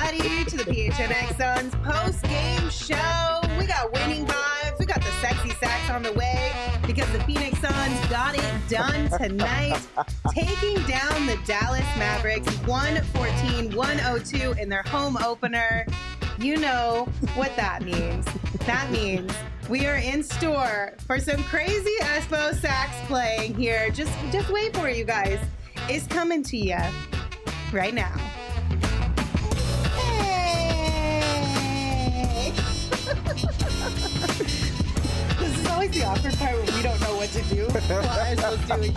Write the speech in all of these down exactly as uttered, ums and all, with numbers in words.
everybody, to the P H N X Suns post-game show. We got winning vibes. We got the sexy sax on the way because the Phoenix Suns got it done tonight, taking down the Dallas Mavericks one fourteen to one oh two in their home opener. You know what that means. That means we are in store for some crazy Espo sax playing here. Just, just wait for it, you guys. It's coming to you right now. Hey! This is always the awkward part when we don't know what to do while Espo's doing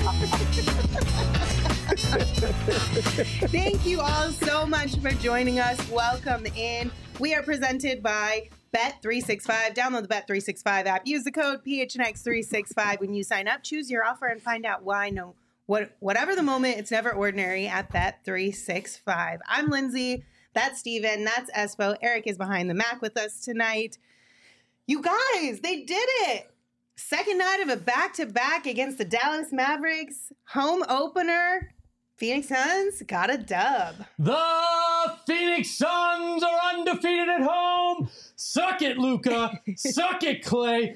this. Thank you all so much for joining us. Welcome in. We are presented by Bet three sixty-five. Download the Bet three sixty-five app. Use the code P H N X three sixty-five when you sign up. Choose your offer and find out why. No, what, whatever the moment, it's never ordinary at Bet three sixty-five. I'm Lindsay. That's Steven. That's Espo. Eric is behind the Mac with us tonight. You guys, they did it. Second night of a back-to-back against the Dallas Mavericks. Home opener. Phoenix Suns got a dub. The Phoenix Suns are undefeated at home. Suck it, Luka. Suck it, Clay.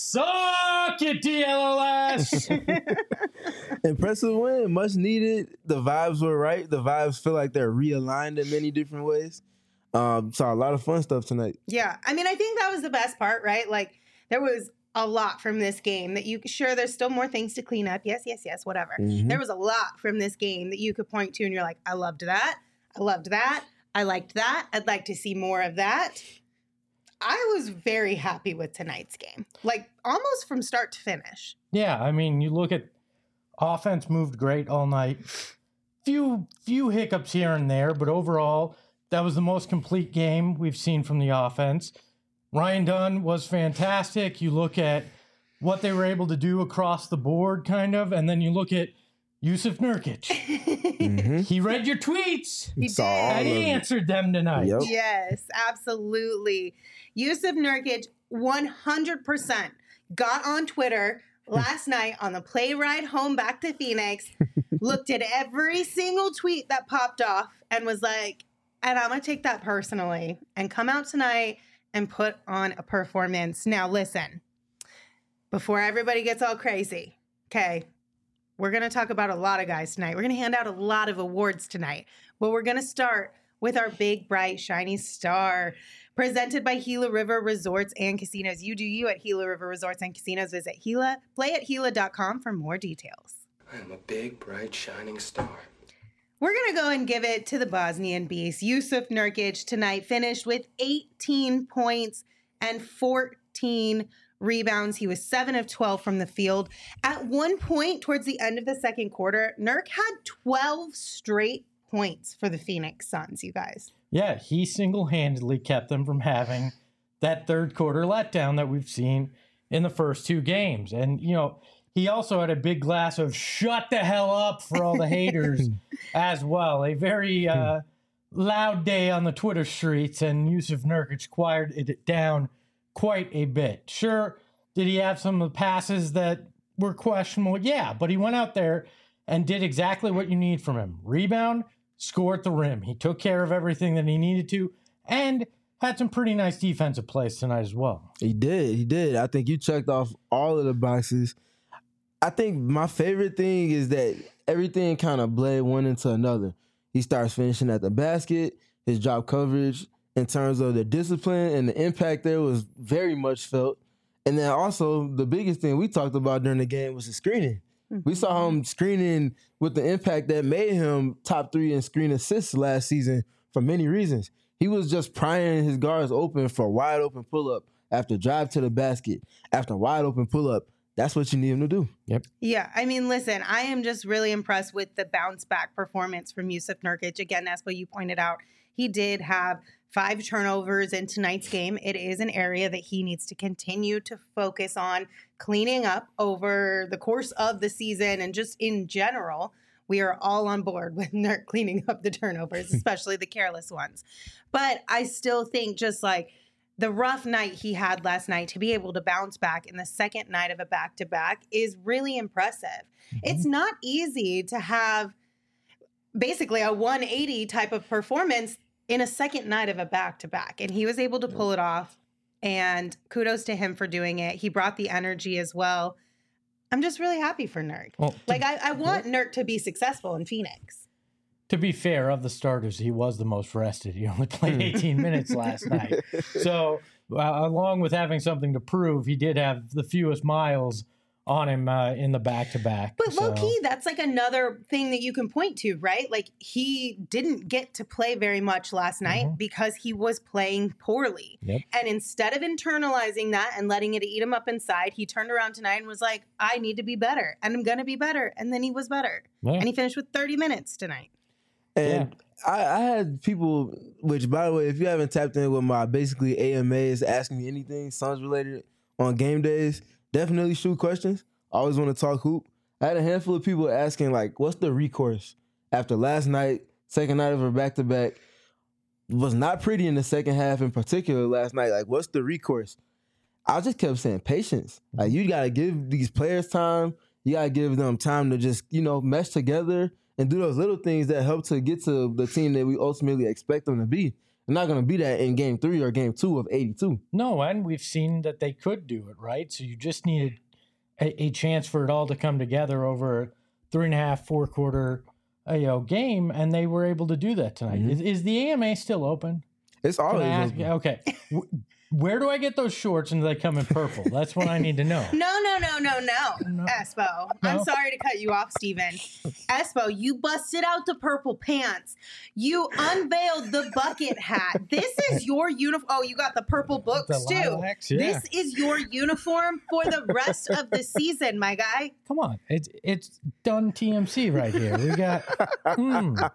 Suck it, D L L S. Impressive win. Much needed. The vibes were right. The vibes feel like they're realigned in many different ways. Um, saw a lot of fun stuff tonight. Yeah. I mean, I think that was the best part, right? Like, there was a lot from this game that you sure there's still more things to clean up. Yes, yes, yes, whatever. Mm-hmm. There was a lot from this game that you could point to and you're like, I loved that. I loved that. I liked that. I'd like to see more of that. I was very happy with tonight's game, like almost from start to finish. Yeah, I mean, you look at offense moved great all night. Few few hiccups here and there, but overall, that was the most complete game we've seen from the offense. Ryan Dunn was fantastic. You look at what they were able to do across the board, kind of, and then you look at Jusuf Nurkic. Mm-hmm. He read your tweets. He did. And he answered them tonight. Yep. Yes, absolutely. Jusuf Nurkic one hundred percent got on Twitter last night on the play ride home back to Phoenix, looked at every single tweet that popped off and was like, and I'm going to take that personally and come out tonight and put on a performance. Now, listen, before everybody gets all crazy, okay, we're going to talk about a lot of guys tonight. We're going to hand out a lot of awards tonight, but we're going to start with our big, bright, shiny star, presented by Gila River Resorts and Casinos. You do you at Gila River Resorts and Casinos. Visit Gila, play at Gila dot com for more details. I am a big, bright, shining star. We're going to go and give it to the Bosnian beast. Jusuf Nurkic tonight finished with eighteen points and fourteen rebounds. He was seven of twelve from the field. At one point towards the end of the second quarter, Nurk had twelve straight points for the Phoenix Suns, you guys. Yeah, he single-handedly kept them from having that third quarter letdown that we've seen in the first two games. And, you know, he also had a big glass of shut the hell up for all the haters as well. A very uh, loud day on the Twitter streets, and Jusuf Nurkic quieted it down quite a bit. Sure, did he have some of the passes that were questionable? Yeah, but he went out there and did exactly what you need from him. Rebound, score at the rim. He took care of everything that he needed to, and had some pretty nice defensive plays tonight as well. He did. He did. I think you checked off all of the boxes. I think my favorite thing is that everything kind of bled one into another. He starts finishing at the basket. His drop coverage in terms of the discipline and the impact there was very much felt. And then also the biggest thing we talked about during the game was the screening. Mm-hmm. We saw him screening with the impact that made him top three in screen assists last season for many reasons. He was just prying his guards open for wide open pull-up after drive to the basket, after wide open pull-up. That's what you need him to do. Yep. Yeah, I mean, listen, I am just really impressed with the bounce-back performance from Jusuf Nurkic. Again, Espo, you pointed out, he did have five turnovers in tonight's game. It is an area that he needs to continue to focus on cleaning up over the course of the season and just in general. We are all on board with Nurk cleaning up the turnovers, especially the careless ones. But I still think just like the rough night he had last night, to be able to bounce back in the second night of a back-to-back is really impressive. Mm-hmm. It's not easy to have basically a one eighty type of performance in a second night of a back-to-back, and he was able to pull it off, and kudos to him for doing it. He brought the energy as well. I'm just really happy for Nurk. Well, like, I, I want Nurk to be successful in Phoenix. To be fair, of the starters, he was the most rested. He only played eighteen minutes last night. So, uh, along with having something to prove, he did have the fewest miles on him uh, in the back-to-back. But so. low-key, that's like another thing that you can point to, right? Like, he didn't get to play very much last night Mm-hmm. because he was playing poorly. Yep. And instead of internalizing that and letting it eat him up inside, he turned around tonight and was like, I need to be better, and I'm going to be better. And then he was better. Yeah. And he finished with thirty minutes tonight. And yeah. I, I had people, which by the way, if you haven't tapped in with my basically A M As asking me anything Suns related on game days, definitely shoot questions. I always want to talk hoop. I had a handful of people asking, like, what's the recourse after last night, second night of a back-to-back? Was not pretty in the second half in particular last night. Like, what's the recourse? I just kept saying patience. Like, you got to give these players time. You got to give them time to just, you know, mesh together and do those little things that help to get to the team that we ultimately expect them to be. They're not going to be that in game three or game two of eighty-two. No, and we've seen that they could do it, right? So you just needed a, a chance for it all to come together over a three and a half, four quarter uh, you know, game, and they were able to do that tonight. Mm-hmm. Is, is the A M A still open? It's always ask, open. Okay. Where do I get those shorts and do they come in purple? That's what I need to know. No, no, no, no, no, No. Espo. No. I'm sorry to cut you off, Steven. Espo, you busted out the purple pants. You unveiled the bucket hat. This is your uniform. Oh, you got the purple books The too. lilacs, yeah. This is your uniform for the rest of the season, my guy. Come on. It's it's done T M C right here. We got mm.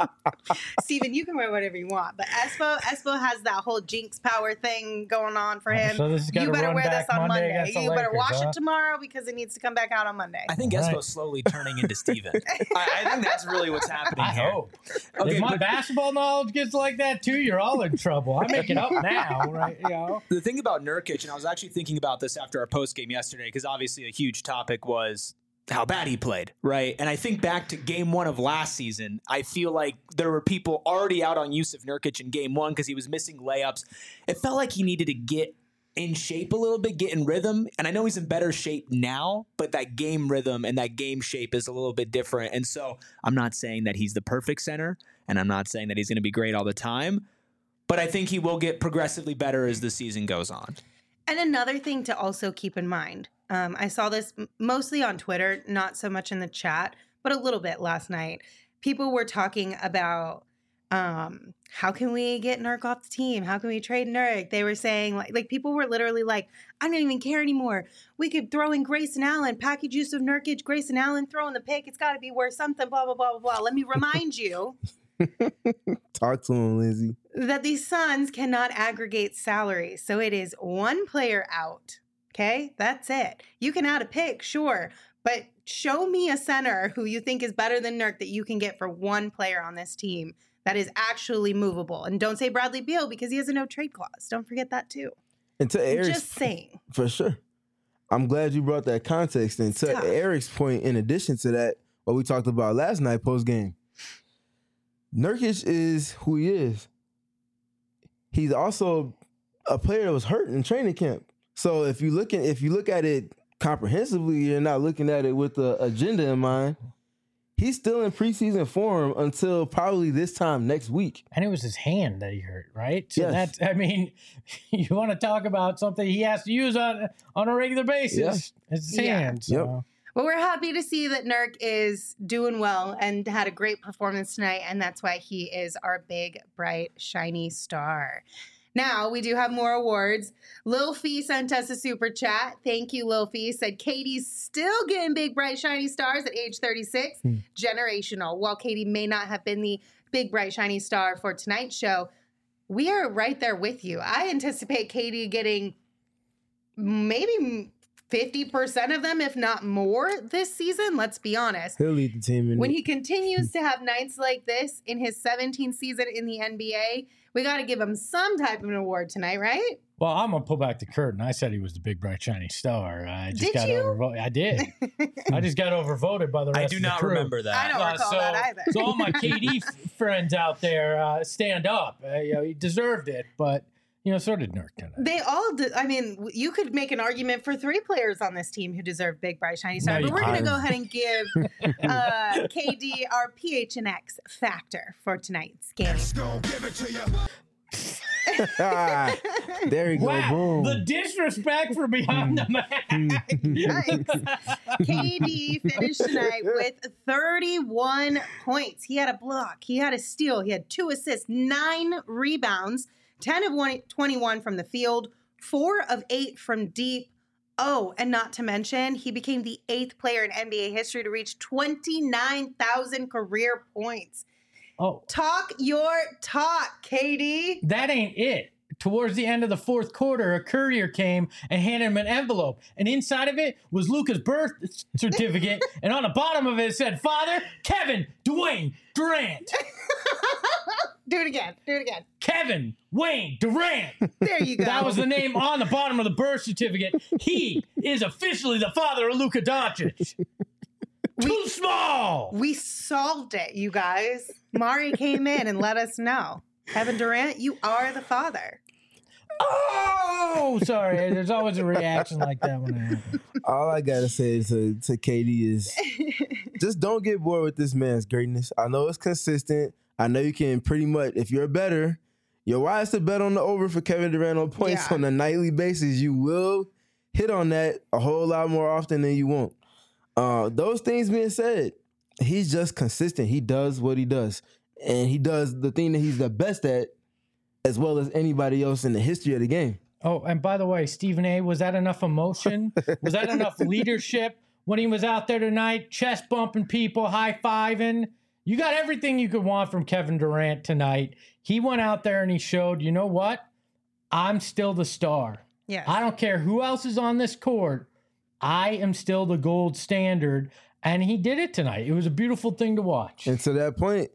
Steven, you can wear whatever you want, but Espo, Espo has that whole jinx power thing going on for him. So this has got you to better run wear back this on Monday Monday. against the You better Lakers, wash huh? it tomorrow because it needs to come back out on Monday. I think All Espo's right. slowly turning into Steven. I, I think that's really what's happening I here. hope. Okay, if my but basketball knowledge gets like that too, you're all in trouble. I make it up now, right? You know? the thing about Nurkic, and I was actually thinking about this after our post game yesterday, because obviously a huge topic was how bad he played, right? And I think back to game one of last season, I feel like there were people already out on Jusuf Nurkic in game one because he was missing layups. It felt like he needed to get in shape a little bit, get in rhythm. And I know he's in better shape now, but that game rhythm and that game shape is a little bit different. And so I'm not saying that he's the perfect center, and I'm not saying that he's going to be great all the time, but I think he will get progressively better as the season goes on. And another thing to also keep in mind, um, I saw this m- mostly on Twitter, not so much in the chat, but a little bit last night. People were talking about um, how can we get Nurk off the team? How can we trade Nurk? They were saying, like, like people were literally like, I don't even care anymore. We could throw in Grayson Allen, package use of Nurkic, Grayson Allen, throw in the pick. It's got to be worth something, blah, blah, blah, blah, blah. Let me remind you Talk to him, Lindsay. that the Suns cannot aggregate salary. So it is one player out. Okay, that's it. You can add a pick, sure, but show me a center who you think is better than Nurk that you can get for one player on this team that is actually movable. And don't say Bradley Beal because he has a no trade clause. Don't forget that too. And to I'm Eric's, just saying. for sure. I'm glad you brought that context. And to tough. Eric's point, in addition to that, what we talked about last night post game, Nurkic is who he is. He's also a player that was hurt in training camp. So if you look at if you look at it comprehensively, you're not looking at it with the agenda in mind. He's still in preseason form until probably this time next week. And it was his hand that he hurt, right? So Yes. that's, I mean, you want to talk about something he has to use on on a regular basis. Yeah. It's his Yeah. hand. So. Yep. Well, we're happy to see that Nurk is doing well and had a great performance tonight, and that's why he is our big, bright, shiny star. Now, we do have more awards. Lil Fee sent us a super chat. Thank you, Lil Fee. Said Katie's still getting big, bright, shiny stars at age thirty-six. Hmm. Generational. While Katie may not have been the big, bright, shiny star for tonight's show, we are right there with you. I anticipate Katie getting maybe fifty percent of them, if not more, this season. Let's be honest. He'll lead the team in When it. he continues to have nights like this in his seventeenth season in the N B A, We got to give him some type of an award tonight, right? Well, I'm gonna pull back the curtain. I said he was the big, bright, shiny star. I just Did got you? overvoted. I did. I just got overvoted by the rest I of do the not crew. remember I that. don't Uh, recall so, that either. so all my K D f- friends out there, uh, stand up. Uh, you know, he deserved it, but you know, so did Nurk tonight. They all did. I mean, w- you could make an argument for three players on this team who deserve big, bright, shiny star. No, but you we're going to couldn't. go ahead and give uh, K D our P H N X factor for tonight's game. There you go. Wow, Boom. the disrespect for behind the mask. Yikes. K D finished tonight with thirty-one points. He had a block, he had a steal, he had two assists, nine rebounds, ten of one, twenty-one from the field, four of eight from deep. Oh, and not to mention, he became the eighth player in N B A history to reach twenty-nine thousand career points. Oh, Talk your talk, K D. that ain't it. Towards the end of the fourth quarter, a courier came and handed him an envelope, and inside of it was Luca's birth certificate, and on the bottom of it said, "Father, Kevin Dwayne Durant." Do it again. Do it again. Kevin Wayne Durant. There you go. That was the name on the bottom of the birth certificate. He is officially the father of Luka Doncic. Too small. We solved it, you guys. Mari came in and let us know. Kevin Durant, you are the father. Oh, sorry. There's always a reaction like that when it happens. All I gotta say to, to K D is just don't get bored with this man's greatness. I know it's consistent. I know you can pretty much, if you're better, you're wise to bet on the over for Kevin Durant on points Yeah. on a nightly basis. You will hit on that a whole lot more often than you won't. Uh, those things being said, he's just consistent. He does what he does. And he does the thing that he's the best at as well as anybody else in the history of the game. Oh, and by the way, Stephen A., was that enough emotion? Was that enough leadership when he was out there tonight, chest bumping people, high fiving? You got everything you could want from Kevin Durant tonight. He went out there and he showed, you know what? I'm still the star. Yes. I don't care who else is on this court. I am still the gold standard. And he did it tonight. It was a beautiful thing to watch. And to that point,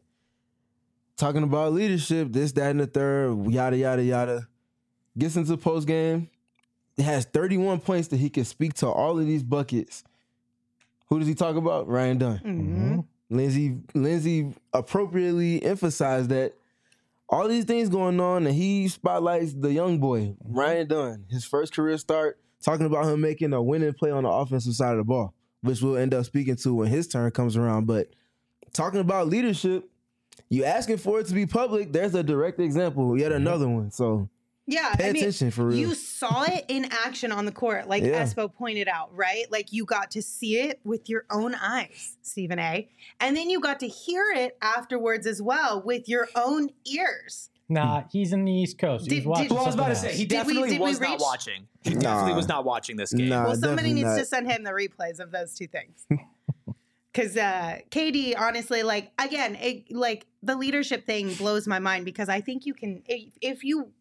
talking about leadership, this, that, and the third, yada, yada, yada. Gets into post game, has thirty-one points that he can speak to all of these buckets. Who does he talk about? Ryan Dunn. Mhm. Lindsay, Lindsay appropriately emphasized that all these things going on, and he spotlights the young boy, Ryan Dunn, his first career start, talking about him making a winning play on the offensive side of the ball, which we'll end up speaking to when his turn comes around. But talking about leadership, you asking for it to be public, there's a direct example, yet another one. So Yeah, pay I mean, attention for real. you saw it in action on the court, like Yeah. Espo pointed out, right? Like you got to see it with your own eyes, Stephen A. And then you got to hear it afterwards as well with your own ears. Nah, he's in the East Coast. He was Did- watching did- Well, I was about to something say, he Did we- definitely did we was not reach- watching. He Nah. definitely was not watching this game. Nah. Well, somebody definitely needs not. to send him the replays of those two things. Because uh, K D, honestly, like, again, it, like, the leadership thing blows my mind because I think you can, if, if you,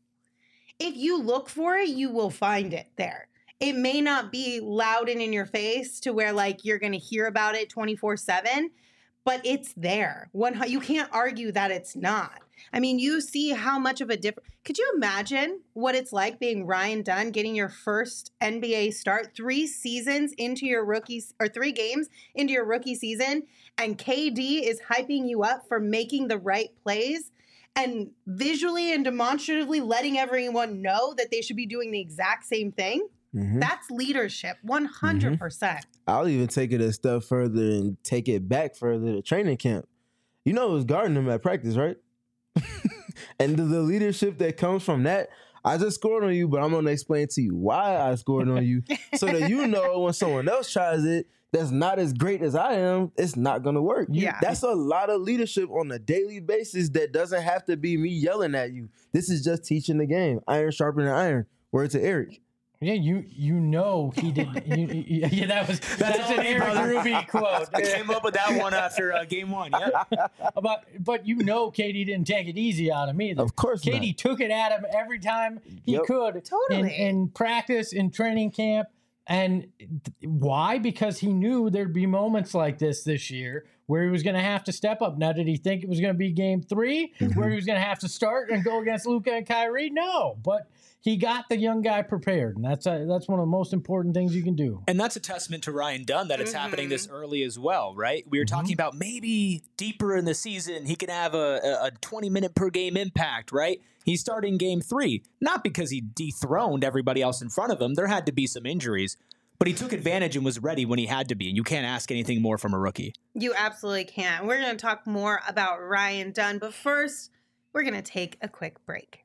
if you look for it, you will find it there. It may not be loud and in your face to where, like, you're going to hear about it twenty-four seven, but it's there. One, you can't argue that it's not. I mean, you see how much of a difference. Could you imagine what it's like being Ryan Dunn, getting your first N B A start three seasons into your rookie, or three games into your rookie season, and K D is hyping you up for making the right plays and visually and demonstratively letting everyone know that they should be doing the exact same thing? Mhm. That's leadership, one hundred percent. I'll even take it a step further and take it back further to training camp. You know, it was guarding him at practice, right? And the, the leadership that comes from that, I just scored on you, but I'm going to explain to you why I scored on you so that you know when someone else tries it that's not as great as I am, it's not going to work. You- Yeah. That's a lot of leadership on a daily basis that doesn't have to be me yelling at you. This is just teaching the game. Iron sharpening iron. Word to Eric. Yeah, you you know he did. You, you- yeah, that was that's an Eric Ruby quote. I came up with that one after uh, game one. Yep. But but you know, Katie didn't take it easy on him either. Of course not. Katie took it at him every time he Yep. could. Totally. in, in practice, in training camp, and th- why? Because he knew there'd be moments like this this year where he was going to have to step up. Now, did he think it was going to be game three Mm-hmm. where he was going to have to start and go against Luka and Kyrie? No, but he got the young guy prepared, and that's a, that's one of the most important things you can do. And that's a testament to Ryan Dunn that it's happening this early as well, right? We were talking about maybe deeper in the season he could have a, a twenty minute per game impact, right? He's starting game three, not because he dethroned everybody else in front of him. There had to be some injuries, but he took advantage and was ready when he had to be. And you can't ask anything more from a rookie. You absolutely can't. We're going to talk more about Ryan Dunn, but first, we're going to take a quick break.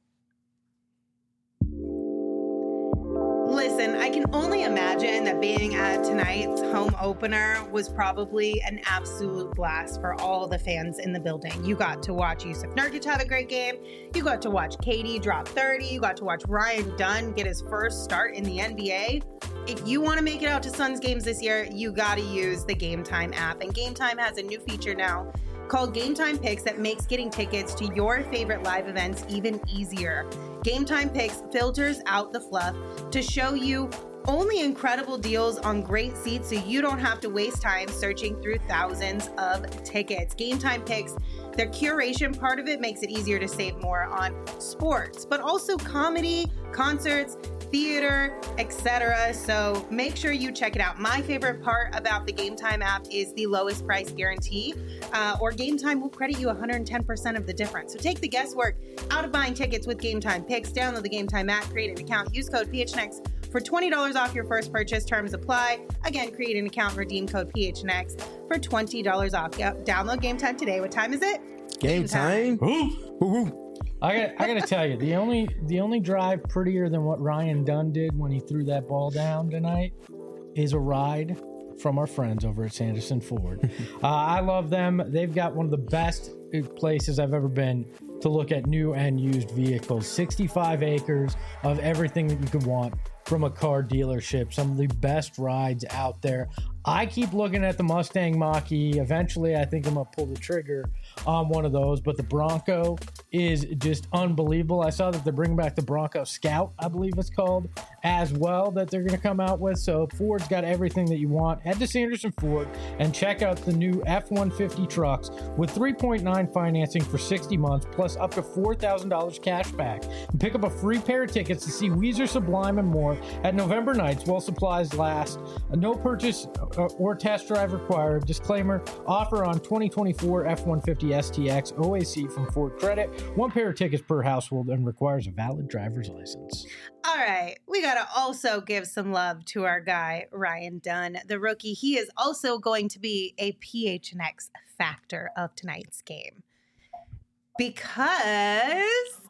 Listen, I can only imagine that being at tonight's home opener was probably an absolute blast for all the fans in the building. You got to watch Yusuf Nurkic have a great game. You got to watch K D drop thirty. You got to watch Ryan Dunn get his first start in the N B A. If you want to make it out to Suns games this year, you got to use the Game Time app. And Game Time has a new feature now called Game Time Picks that makes getting tickets to your favorite live events even easier. Game Time Picks filters out the fluff to show you only incredible deals on great seats so you don't have to waste time searching through thousands of tickets. Game Time Picks, their curation part of it makes it easier to save more on sports, but also comedy, concerts, theater, et cetera. So make sure you check it out. My favorite part about the Game Time app is the lowest price guarantee, uh, or Game Time will credit you one hundred ten percent of the difference. So take the guesswork out of buying tickets with Game Time Picks. Download the Game Time app, create an account, use code P H N X for twenty dollars off your first purchase. Terms apply. Again, create an account, redeem code P H N X for twenty dollars off. Yep. Download Game Time today. What time is it? Game time. I got I got to tell you, the only the only drive prettier than what Ryan Dunn did when he threw that ball down tonight is a ride from our friends over at Sanderson Ford. uh, I love them. They've got one of the best places I've ever been to look at new and used vehicles. sixty-five acres of everything that you could want from a car dealership. Some of the best rides out there. I keep looking at the Mustang Mach-E. Eventually, I think I'm going to pull the trigger on one of those. But the Bronco is just unbelievable. I saw that they're bringing back the Bronco Scout, I believe it's called, as well, that they're going to come out with. So Ford's got everything that you want. Head to Sanderson Ford and check out the new F one fifty trucks with three point nine financing for sixty months, plus up to four thousand dollars cash back. And pick up a free pair of tickets to see Weezer, Sublime, and more at November nights while supplies last. No purchase or test drive required. Disclaimer, offer on twenty twenty-four F one fifty S T X O A C from Ford Credit. One pair of tickets per household and requires a valid driver's license. All right, we got to also give some love to our guy, Ryan Dunn, the rookie. He is also going to be a P H N X factor of tonight's game because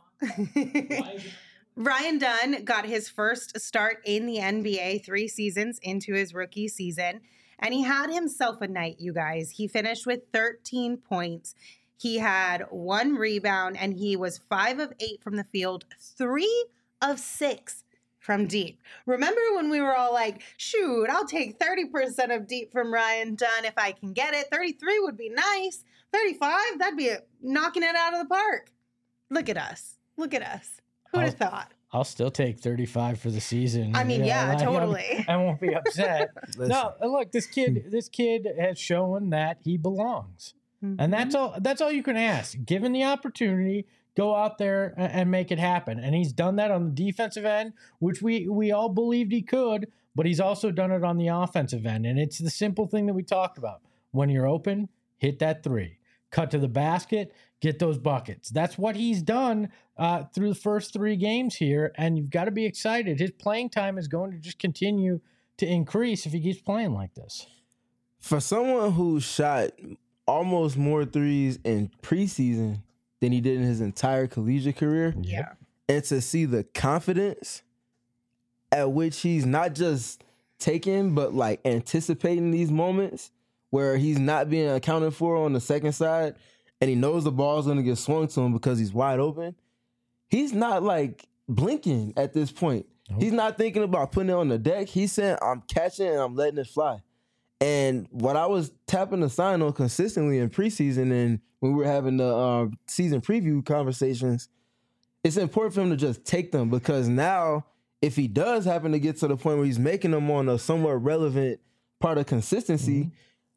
Ryan Dunn got his first start in the N B A three seasons into his rookie season, and he had himself a night, you guys. He finished with thirteen points. He had one rebound, and he was five of eight from the field, three of six from deep. Remember when we were all like, shoot, I'll take thirty percent of deep from Ryan Dunn if I can get it. thirty-three would be nice. thirty-five, that'd be knocking it out of the park. Look at us. Look at us. Who'd have thought? I'll still take thirty-five for the season. I mean, yeah, like, totally. I won't be upset. No, look, this kid, this kid has shown that he belongs. Mm-hmm. And that's all that's all you can ask. Given the opportunity, go out there and, and make it happen. And he's done that on the defensive end, which we we all believed he could, but he's also done it on the offensive end. And it's the simple thing that we talked about. When you're open, hit that three. Cut to the basket, get those buckets. That's what he's done uh, through the first three games here, and you've got to be excited. His playing time is going to just continue to increase if he keeps playing like this. For someone who shot almost more threes in preseason than he did in his entire collegiate career, Yeah. and to see the confidence at which he's not just taking, but like anticipating these moments where he's not being accounted for on the second side, and he knows the ball's going to get swung to him because he's wide open, he's not like blinking at this point. Nope. He's not thinking about putting it on the deck. He's saying, I'm catching and I'm letting it fly. And what I was tapping the sign on consistently in preseason and when we were having the uh, season preview conversations, it's important for him to just take them, because now if he does happen to get to the point where he's making them on a somewhat relevant part of consistency, mm-hmm.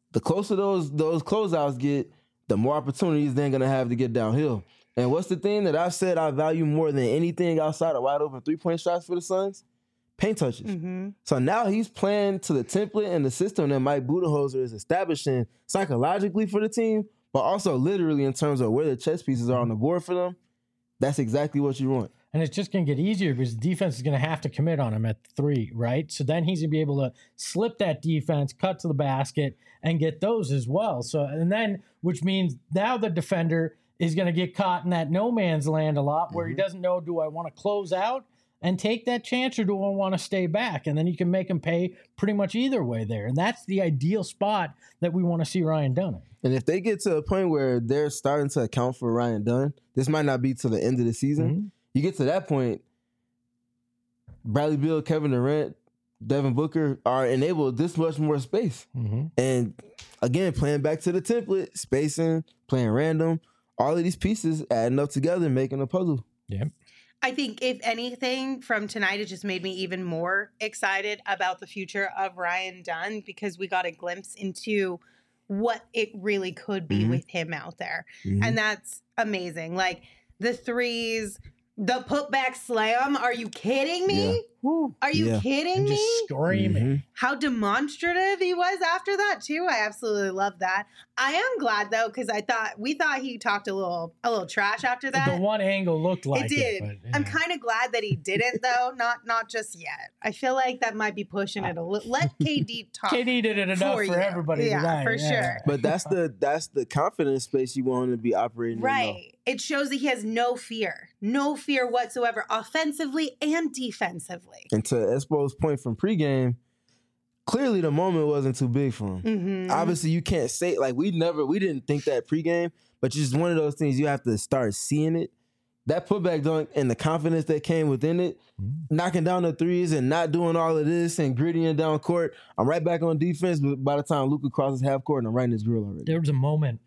the closer those those closeouts get, the more opportunities they're gonna have to get downhill. And what's the thing that I said I value more than anything outside of wide open three point shots for the Suns? Paint touches. Mm-hmm. So now he's playing to the template and the system that Mike Budenholzer is establishing psychologically for the team, but also literally in terms of where the chess pieces are on the board for them. That's exactly what you want. And it's just going to get easier because the defense is going to have to commit on him at three, right? So then he's going to be able to slip that defense, cut to the basket, and get those as well. So, and then, which means now the defender is going to get caught in that no man's land a lot where mm-hmm. he doesn't know, do I want to close out and take that chance or do I want to stay back? And then you can make him pay pretty much either way there. And that's the ideal spot that we want to see Ryan Dunn in. And if they get to a point where they're starting to account for Ryan Dunn, this might not be till the end of the season. Mm-hmm. You get to that point, Bradley Beal, Kevin Durant, Devin Booker are enabled this much more space. Mm-hmm. And again, playing back to the template, spacing, playing random, all of these pieces adding up together, making a puzzle. Yeah. I think if anything from tonight, it just made me even more excited about the future of Ryan Dunn because we got a glimpse into what it really could be mm-hmm. with him out there. Mm-hmm. And that's amazing. Like the threes, the putback slam. Are you kidding me? Yeah. Are you yeah. kidding and me? Just screaming. Mm-hmm. How demonstrative he was after that too. I absolutely love that. I am glad though because I thought we thought he talked a little a little trash after that. The one angle looked like it did. It, but, yeah. I'm kind of glad that he didn't though. Not not just yet. I feel like that might be pushing it a little. Let K D talk. K D did it enough for, for everybody yeah, tonight. For yeah. sure. But that's the that's the confidence space you want to be operating right. in. Right. It shows that he has no fear, no fear whatsoever, offensively and defensively. And to Espo's point from pregame, clearly the moment wasn't too big for him. Mm-hmm. Obviously, you can't say, like, we never, we didn't think that pregame, but it's just one of those things you have to start seeing it. That putback dunk and the confidence that came within it, mm-hmm. knocking down the threes and not doing all of this and grittying down court. I'm right back on defense, but by the time Luka crosses half court, and I'm right in his grill already. There was a moment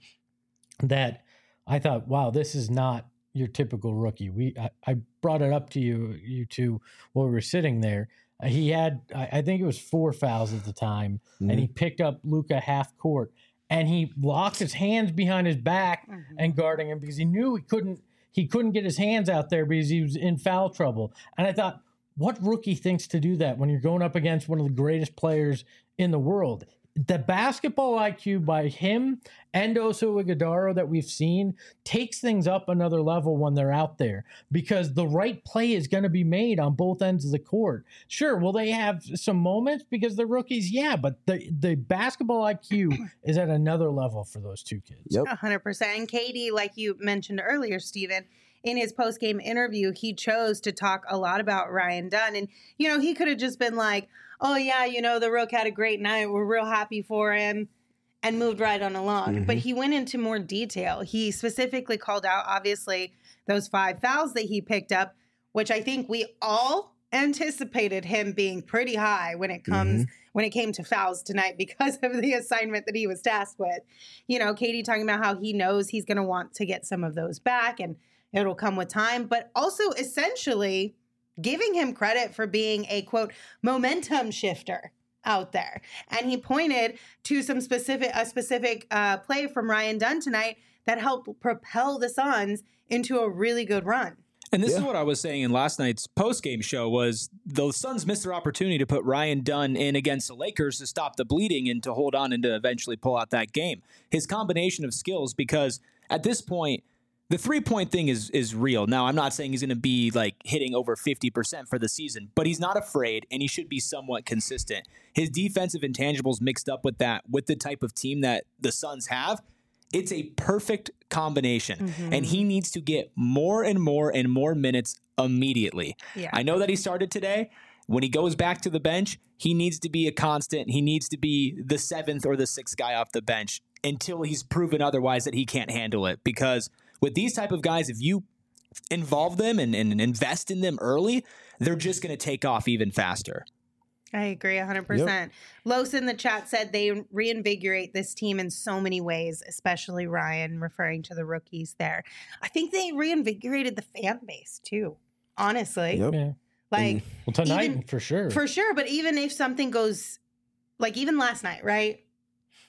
that I thought, wow, this is not your typical rookie. We I, I brought it up to you, you two, while we were sitting there. Uh, he had, I, I think it was four fouls at the time, mm-hmm. and he picked up Luka half court, and he locked his hands behind his back mm-hmm. and guarding him because he knew he couldn't he couldn't get his hands out there because he was in foul trouble. And I thought, what rookie thinks to do that when you're going up against one of the greatest players in the world? The basketball I Q by him and Oso Ighodaro that we've seen takes things up another level when they're out there because the right play is going to be made on both ends of the court. Sure, will they have some moments because they're rookies? Yeah, but the, the basketball I Q is at another level for those two kids. Yep. one hundred percent. And K D, like you mentioned earlier, Steven, in his post-game interview, he chose to talk a lot about Ryan Dunn. And, you know, he could have just been like, oh, yeah, you know, the Rook had a great night. We're real happy for him and moved right on along. Mm-hmm. But he went into more detail. He specifically called out, obviously, those five fouls that he picked up, which I think we all anticipated him being pretty high when it comes mm-hmm. when it came to fouls tonight because of the assignment that he was tasked with. You know, K D talking about how he knows he's going to want to get some of those back and it'll come with time, but also essentially giving him credit for being a, quote, momentum shifter out there. And he pointed to some specific, a specific uh, play from Ryan Dunn tonight that helped propel the Suns into a really good run. And this yeah. is what I was saying in last night's post-game show was the Suns missed their opportunity to put Ryan Dunn in against the Lakers to stop the bleeding and to hold on and to eventually pull out that game. His combination of skills, because at this point, the three-point thing is is real. Now, I'm not saying he's going to be like hitting over fifty percent for the season, but he's not afraid, and he should be somewhat consistent. His defensive intangibles mixed up with that, with the type of team that the Suns have, it's a perfect combination. Mm-hmm. And he needs to get more and more and more minutes immediately. Yeah. I know that he started today. When he goes back to the bench, he needs to be a constant. He needs to be the seventh or the sixth guy off the bench until he's proven otherwise that he can't handle it. Because with these type of guys, if you involve them and, and invest in them early, they're just going to take off even faster. I agree one hundred percent. Yep. Los in the chat said they reinvigorate this team in so many ways, especially Ryan, referring to the rookies there. I think they reinvigorated the fan base too, honestly. Yep. Yeah. Like, well, tonight, even, for sure. For sure. But even if something goes, like even last night, right?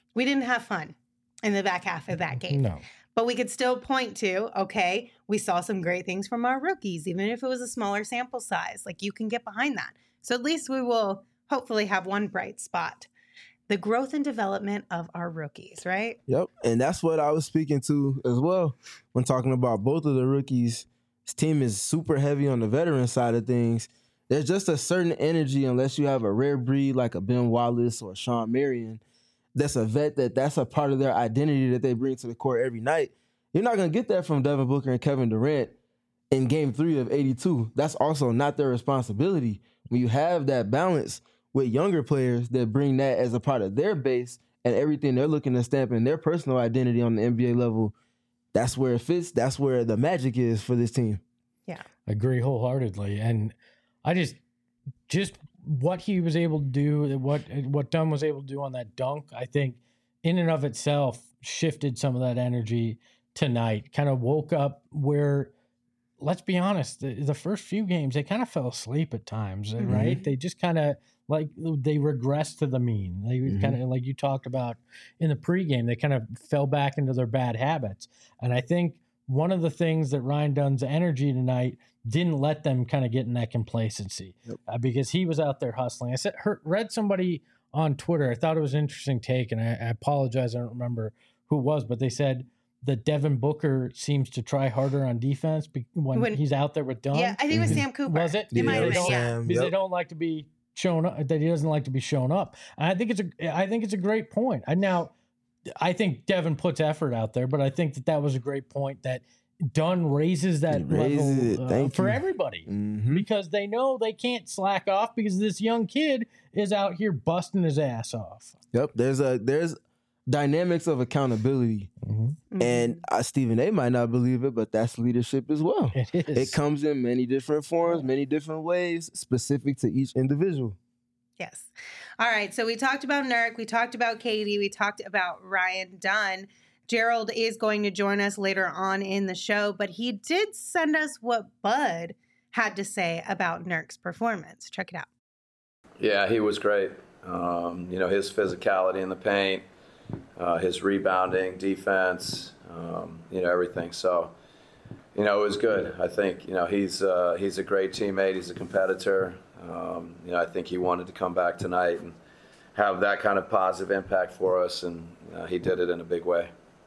We didn't have fun in the back half of that game. No. But we could still point to, okay, we saw some great things from our rookies, even if it was a smaller sample size. Like, you can get behind that. So at least we will hopefully have one bright spot. The growth and development of our rookies, right? Yep. And that's what I was speaking to as well when talking about both of the rookies. This team is super heavy on the veteran side of things. There's just a certain energy, unless you have a rare breed like a Ben Wallace or a Sean Marion, that's a vet, that that's a part of their identity that they bring to the court every night. You're not going to get that from Devin Booker and Kevin Durant in game three of eighty-two. That's also not their responsibility. When you have that balance with younger players that bring that as a part of their base and everything they're looking to stamp in their personal identity on the N B A level, that's where it fits. That's where the magic is for this team. Yeah. Agree wholeheartedly. And I just, just what he was able to do, what what Dunn was able to do on that dunk, I think in and of itself shifted some of that energy tonight. Kind of woke up where, let's be honest, the, the first few games, they kind of fell asleep at times, mm-hmm. right? They just kind of, like, they regressed to the mean. They mm-hmm. kind of, like you talked about in the pregame, they kind of fell back into their bad habits. And I think one of the things that Ryan Dunn's energy tonight didn't let them kind of get in that complacency, yep. uh, because he was out there hustling. I said, heard, read somebody on Twitter, I thought it was an interesting take, and I, I apologize, I don't remember who it was, but they said that Devin Booker seems to try harder on defense when, when he's out there with Dunn. Yeah, I think it was Sam Cooper. Was it? It might have been, yeah. Because yep. they don't like to be shown up, that he doesn't like to be shown up. And I think it's a, I think it's a great point. I now, I think Devin puts effort out there, but I think that that was a great point, that Dunn raises that raises level uh, for you. everybody, mm-hmm. because they know they can't slack off because this young kid is out here busting his ass off. Yep, there's a there's dynamics of accountability, mm-hmm. and uh, Stephen A. might not believe it, but that's leadership as well. It is. It comes in many different forms, many different ways, specific to each individual. Yes. All right. So we talked about Nurk, we talked about Katie, we talked about Ryan Dunn. Gerald is going to join us later on in the show, but he did send us what Bud had to say about Nurk's performance. Check it out. Yeah, he was great. Um, you know, his physicality in the paint, uh, his rebounding, defense, um, you know, everything. So, you know, it was good. I think, you know, he's uh, he's a great teammate. He's a competitor. Um, you know, I think he wanted to come back tonight and have that kind of positive impact for us, and uh, he did it in a big way.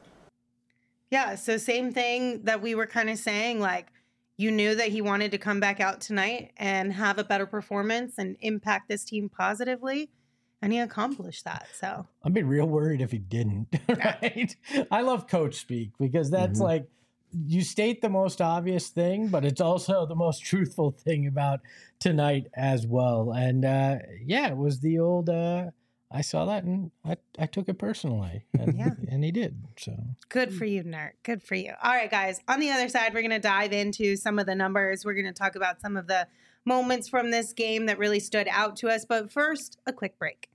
Yeah, so same thing that we were kind of saying, like, you knew that he wanted to come back out tonight and have a better performance and impact this team positively, and he accomplished that. So I'd be real worried if he didn't, right? I love coach speak, because that's mm-hmm. like, you state the most obvious thing, but it's also the most truthful thing about tonight as well. And uh, yeah, it was the old, uh, I saw that and I, I took it personally, and, yeah. and he did. So good for you, Nurk. Good for you. All right, guys. On the other side, we're going to dive into some of the numbers. We're going to talk about some of the moments from this game that really stood out to us. But first, a quick break.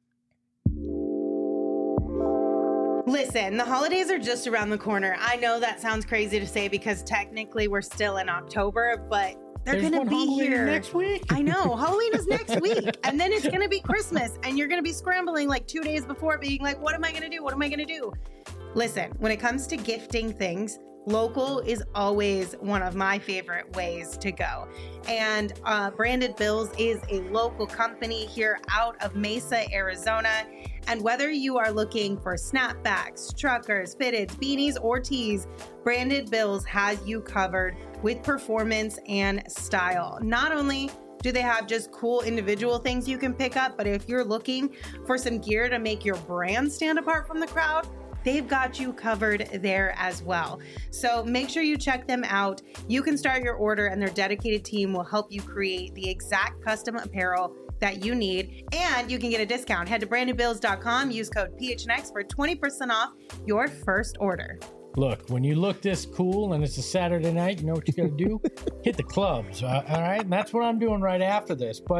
Listen, the holidays are just around the corner. I know that sounds crazy to say because technically we're still in October, but they're going to be Halloween here next week. I know. Halloween is next week. And then it's going to be Christmas. And you're going to be scrambling like two days before, being like, what am I going to do? What am I going to do? Listen, when it comes to gifting things, local is always one of my favorite ways to go. And uh, Branded Bills is a local company here out of Mesa, Arizona. And whether you are looking for snapbacks, truckers, fitteds, beanies, or tees, Branded Bills has you covered with performance and style. Not only do they have just cool individual things you can pick up, but if you're looking for some gear to make your brand stand apart from the crowd, they've got you covered there as well. So make sure you check them out. You can start your order and their dedicated team will help you create the exact custom apparel that you need, and you can get a discount. Head to branded bills dot com, use code P H N X for twenty percent off your first order. Look, when you look this cool and it's a Saturday night, you know what you got to do? Hit the clubs, uh, all right? And that's what I'm doing right after this. But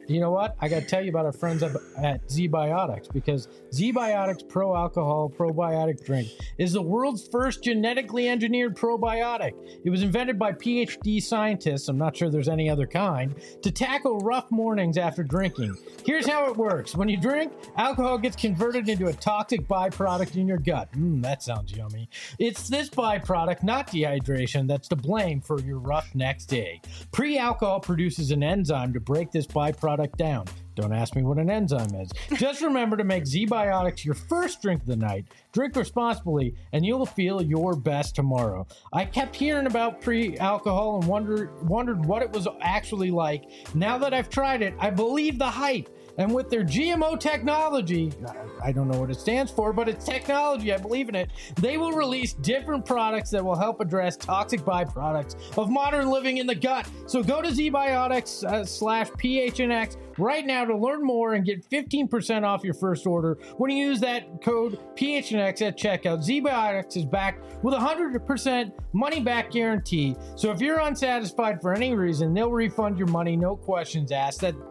You know what? I got to tell you about our friends up at Z-Biotics, because Z-Biotics Pro Alcohol Probiotic Drink is the world's first genetically engineered probiotic. It was invented by P H D scientists, I'm not sure there's any other kind, to tackle rough mornings after drinking. Here's how it works. When you drink, alcohol gets converted into a toxic byproduct in your gut. Mmm, that sounds yummy. It's this byproduct, not dehydration, that's to blame for your rough next day. Pre-alcohol produces an enzyme to break this byproduct down. Don't ask me what an enzyme is. Just remember to make Z-Biotics your first drink of the night. Drink responsibly, and you'll feel your best tomorrow. I kept hearing about pre-alcohol and wondered wondered what it was actually like. Now that I've tried it, I believe the hype. And with their G M O technology, I don't know what it stands for, but it's technology, I believe in it, they will release different products that will help address toxic byproducts of modern living in the gut. So go to ZBiotics uh, slash P H N X right now to learn more and get fifteen percent off your first order when you use that code P H N X at checkout. ZBiotics is backed with a one hundred percent money-back guarantee. So if you're unsatisfied for any reason, they'll refund your money, no questions asked. That's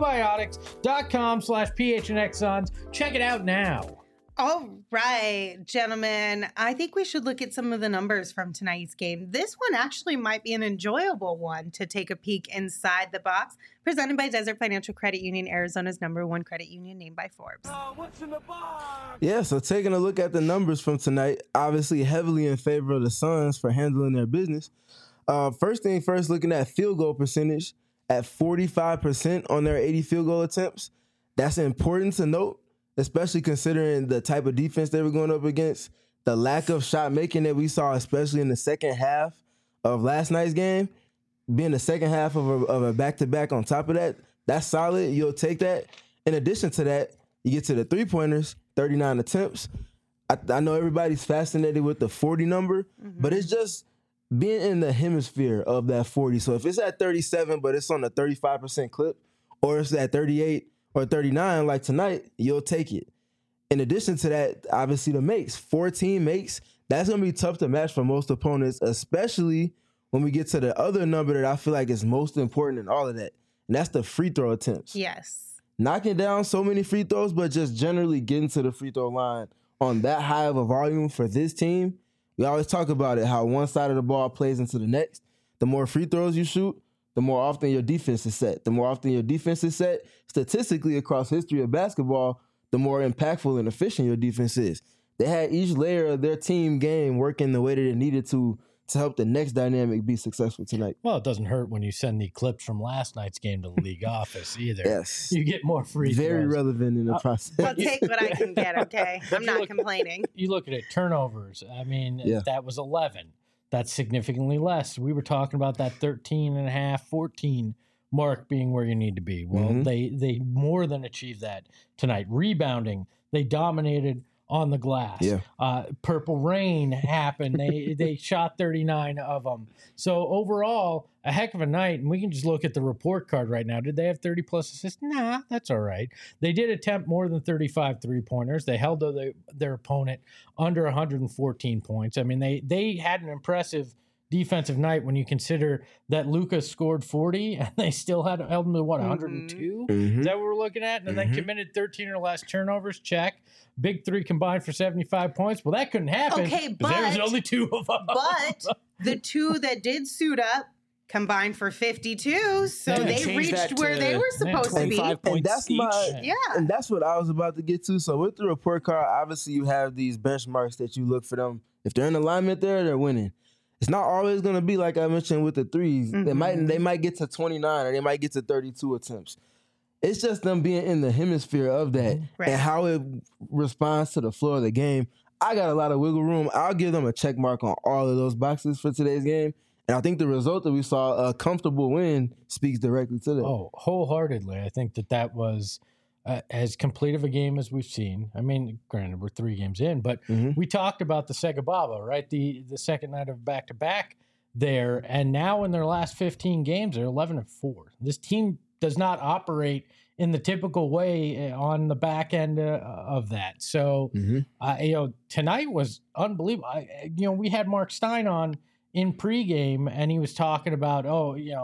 zbiotics.com slash PHNX Sons. Check it out now. All right, gentlemen, I think we should look at some of the numbers from tonight's game. This one actually might be an enjoyable one to take a peek inside the box. Presented by Desert Financial Credit Union, Arizona's number one credit union, named by Forbes. Uh, what's in the box? Yeah, so taking a look at the numbers from tonight, obviously heavily in favor of the Suns for handling their business. Uh, first thing first, looking at field goal percentage at forty-five percent on their eighty field goal attempts. That's important to note, especially considering the type of defense they were going up against, the lack of shot making that we saw, especially in the second half of last night's game. Being the second half of a, of a back-to-back on top of that, that's solid. You'll take that. In addition to that, you get to the three-pointers, thirty-nine attempts. I, I know everybody's fascinated with the forty number, mm-hmm. but it's just being in the hemisphere of that forty. So if it's at thirty-seven, but it's on a thirty-five percent clip, or it's at thirty-eight or thirty-nine like tonight, you'll take it. In addition to that, obviously the makes, fourteen makes, that's going to be tough to match for most opponents, especially when we get to the other number that I feel like is most important in all of that, and that's the free throw attempts. Yes. Knocking down so many free throws, but just generally getting to the free throw line on that high of a volume for this team. We always talk about it, how one side of the ball plays into the next. The more free throws you shoot, the more often your defense is set. The more often your defense is set, statistically across history of basketball, the more impactful and efficient your defense is. They had each layer of their team game working the way that it needed to to help the next dynamic be successful tonight. Well, it doesn't hurt when you send the clips from last night's game to the league office either. Yes. You get more free Very throws. relevant in the Uh, process. I'll take what I can get, okay? I'm you not look- complaining. You look at it, turnovers. I mean, Yeah. that was eleven. That's significantly less. We were talking about that thirteen and a half, fourteen mark being where you need to be. Well, Mhm. they they more than achieved that tonight. Rebounding, they dominated on the glass. Yeah. Uh, Purple Rain happened. They they shot thirty-nine of them. So overall, a heck of a night. And we can just look at the report card right now. Did they have thirty plus assists? Nah, that's all right. They did attempt more than thirty-five three-pointers. They held their, their opponent under one hundred fourteen points. I mean, they they had an impressive defensive night when you consider that Lucas scored forty and they still had held him to what, one hundred two? Mhm. Is that what we're looking at? And then Mhm. they committed thirteen or less turnovers. Check. Big three combined for seventy-five points. Well, that couldn't happen. Okay, 'cause there was but- only two of them. But the two that did suit up combined for fifty-two, so Yeah, they change that reached where to they were supposed to be. twenty-five points And that's each. my- Yeah. And that's what I was about to get to. So with the report card, obviously you have these benchmarks that you look for them. If they're in alignment there, they're winning. It's not always going to be like I mentioned with the threes. They Mhm. might they might get to twenty-nine or they might get to thirty-two attempts. It's just them being in the hemisphere of that Right. and how it responds to the floor of the game. I got a lot of wiggle room. I'll give them a check mark on all of those boxes for today's game. And I think the result that we saw, a comfortable win, speaks directly to that. Oh, wholeheartedly. I think that that was uh, as complete of a game as we've seen. I mean, granted, we're three games in, but Mhm. we talked about the Segababa, right? The the second night of back to back there, and now in their last fifteen games, they're eleven and four. This team does not operate in the typical way uh, on the back end uh, of that. So, Mhm. uh, you know, tonight was unbelievable. I, you know, we had Mark Stein on in pregame, and he was talking about, oh, you know,